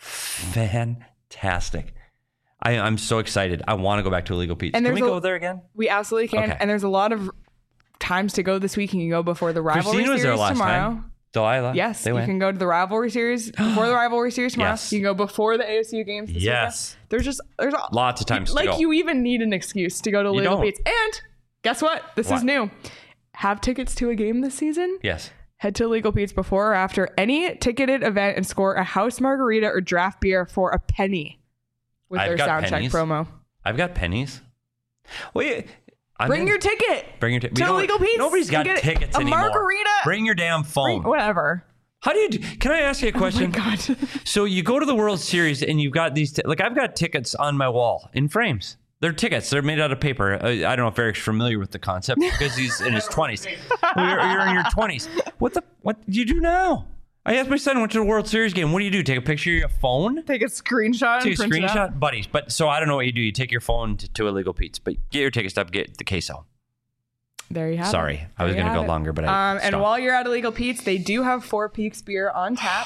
fantastic. I, I'm so excited. I want to go back to Illegal Pete's. And Can we there's a- go there again? We absolutely can. Okay. And there's a lot of times to go this week. You can go before the rivalry Christine was series there last tomorrow. time. Delilah. Yes, They you went. can go to the rivalry series before the rivalry series tomorrow. Yes. You can go before the A S U games. This Yes. weekend. There's just there's a, Lots of times to like go. you even need an excuse to go to Illegal don't. Pete's. And guess what? This What? is new. Have tickets to a game this season? Yes. Head to Illegal Pete's before or after any ticketed event and score a house margarita or draft beer for a penny with I've their got Soundcheck pennies. promo. I've got pennies. Wait. I'm Bring in- your ticket. Bring your ticket. to Illegal Pete's. Nobody's got You get tickets a anymore. margarita. Bring your damn phone. Whatever. How do you do? Can I ask you a question? Oh my God. So you go to the World Series and you've got these, t- like I've got tickets on my wall in frames. They're tickets. They're made out of paper. Uh, I don't know if Eric's familiar with the concept because he's in his twenties. Well, you're, you're in your twenties. What the? What do you do now? I asked my son, went to the World Series game. What do you do? Take a picture of your phone? Take a screenshot. Take a and print it out. screenshot? Buddies. But so I don't know what you do. You take your phone to, to Illegal Pete's, but get your ticket stub, get the queso. There you have it. Sorry. I was There you going to have go it. longer, but I Um, and stopped. while you're at Illegal Pete's, they do have Four Peaks beer on tap.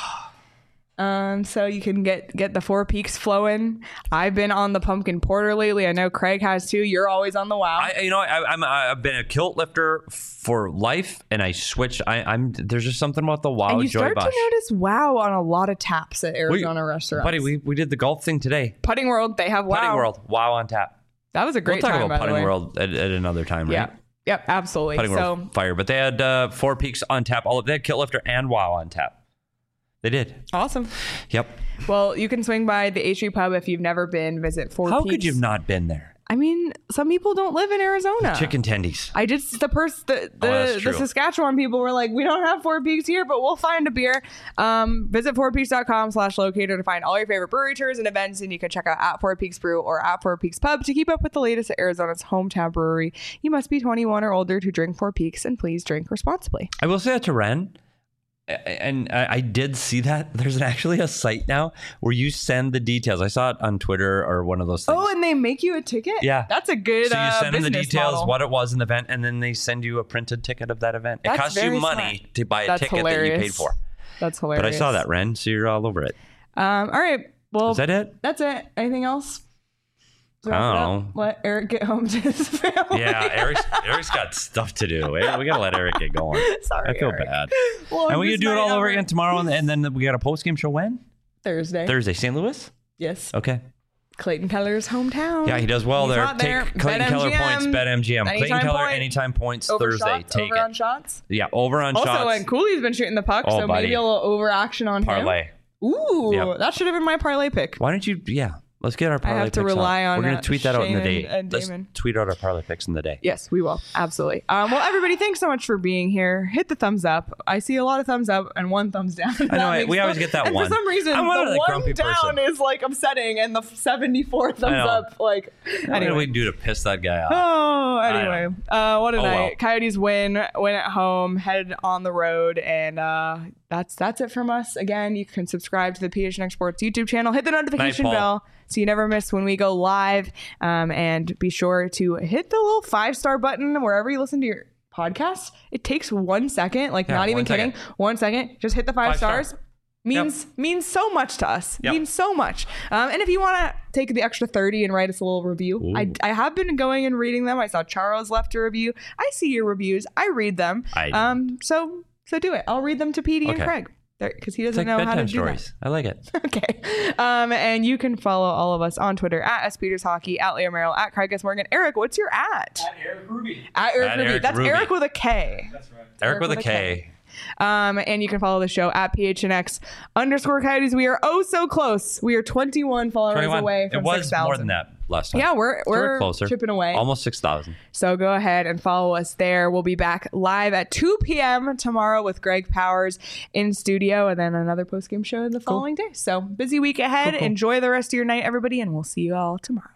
Um, so you can get get the Four Peaks flowing. I've been on the pumpkin porter lately. I know Craig has too. You're always on the wow. I, you know, I, I'm I've been a kilt lifter for life, and I switched. I, I'm there's just something about the Wow and you Joy start Bosch. to notice wow on a lot of taps at Arizona restaurants. Buddy, we, we did the golf thing today. Putting World, they have wow. Putting World, Wow on tap. That was a great We'll talk time. about by the Putting way. World at, at another time, right? Yeah. Yep. Absolutely. Putting so World fire, but they had uh, Four Peaks on tap. All of they had kilt lifter and Wow on tap. They did. awesome. Yep. Well, you can swing by the H E Pub if you've never been. Visit Four How Peaks. could you have not been there? I mean, some people don't live in Arizona. Chicken tendies. I just the person the the, Oh, that's the true. Saskatchewan people were like, we don't have Four Peaks here, but we'll find a beer. Um, visit four peaks dot com slash locator to find all your favorite brewery tours and events, and you can check out at Four Peaks Brew or at Four Peaks Pub to keep up with the latest at Arizona's hometown brewery. You must be twenty-one or older to drink Four Peaks, and please drink responsibly. I will say that to Ren, and I I did see that there's actually a site now where you send the details. I saw it on Twitter or one of those things. Oh, and they make you a ticket? Yeah. That's a good So you uh, send them the business details, model. what it was in the event, and then they send you a printed ticket of that event. It That's costs you very money smart. to buy a That's ticket that you hilarious. paid for. That's hilarious. But I saw that, Ren, so you're all over it. Um, all right. Well, Is that it? that's it. Anything else? I don't know. Let Eric get home to his family. Yeah, Eric's, Eric's got stuff to do. We gotta let Eric get going. Sorry, I feel Eric. bad. Well, And we this can do it night all over over- again tomorrow, and, and then we got a post game show when? Thursday. Thursday, Saint Louis? Yes. Okay. Clayton Keller's hometown. Yeah, he does well He's there. not Take there. Clayton Keller points, bet M G M. Clayton Anytime Keller, point. anytime points, Over Thursday. shots, Take over it. on shots. Yeah, over on Also, shots. and Cooley's been shooting the puck, Oh, so buddy. maybe a little over action on Parlay. him. Ooh, Yep. that should have been my parlay pick. Why don't you? Yeah, let's get our parlay have to picks rely out. on, We're gonna uh, tweet that out in the Shane day. and- and Let's Damon. tweet out our parlay picks in the day. Yes, we will. Absolutely. Um, well, everybody, thanks so much for being here. Hit the thumbs up. I see a lot of thumbs up and one thumbs down. I know, That makes we always no- get that and one. for some reason, I'm one of the the one grumpy down person. is like upsetting, and the seventy-four thumbs know. up, like, What did anyway. we do to piss that guy off? Oh, I anyway. Uh, what a Oh, night. well. Coyotes win, win at home, head on the road, and uh, that's that's it from us. Again, you can subscribe to the P H N X Sports YouTube channel, hit the notification Night, Paul. bell so you never miss when we go live, um, and be sure to hit the little five-star button wherever you listen to your podcast. It takes one second, like Yeah, not even one kidding. second. One second. Just hit the five, Five star. stars. Means means so much to us. Yep. Means so much. Um, and if you want to take the extra thirty and write us a little review, I, Ooh. I have been going and reading them. I saw Charles left a review. I see your reviews. I read them. I do. um so so do it. I'll read them to Petey and Okay. Craig because he It's doesn't like know how to bedtime do stories. I like it. that. Okay. Um, and you can follow all of us on Twitter at S Peters Hockey, at Leo Merrill, at Craig S Morgan. Eric, what's your at? At Eric Ruby. At Eric At Ruby. Eric That's Ruby. Eric with a K. That's right. Eric with a K. Um, and you can follow the show at P H N X underscore Coyotes. We are oh so close. We are twenty-one followers twenty-one. away from It was six thousand. more than that last time. Yeah, we're So we're closer. chipping away. Almost six thousand. So go ahead and follow us there. We'll be back live at two p.m. tomorrow with Greg Powers in studio, and then another post-game show the following day. So busy week ahead. Cool, cool. Enjoy the rest of your night, everybody, and we'll see you all tomorrow.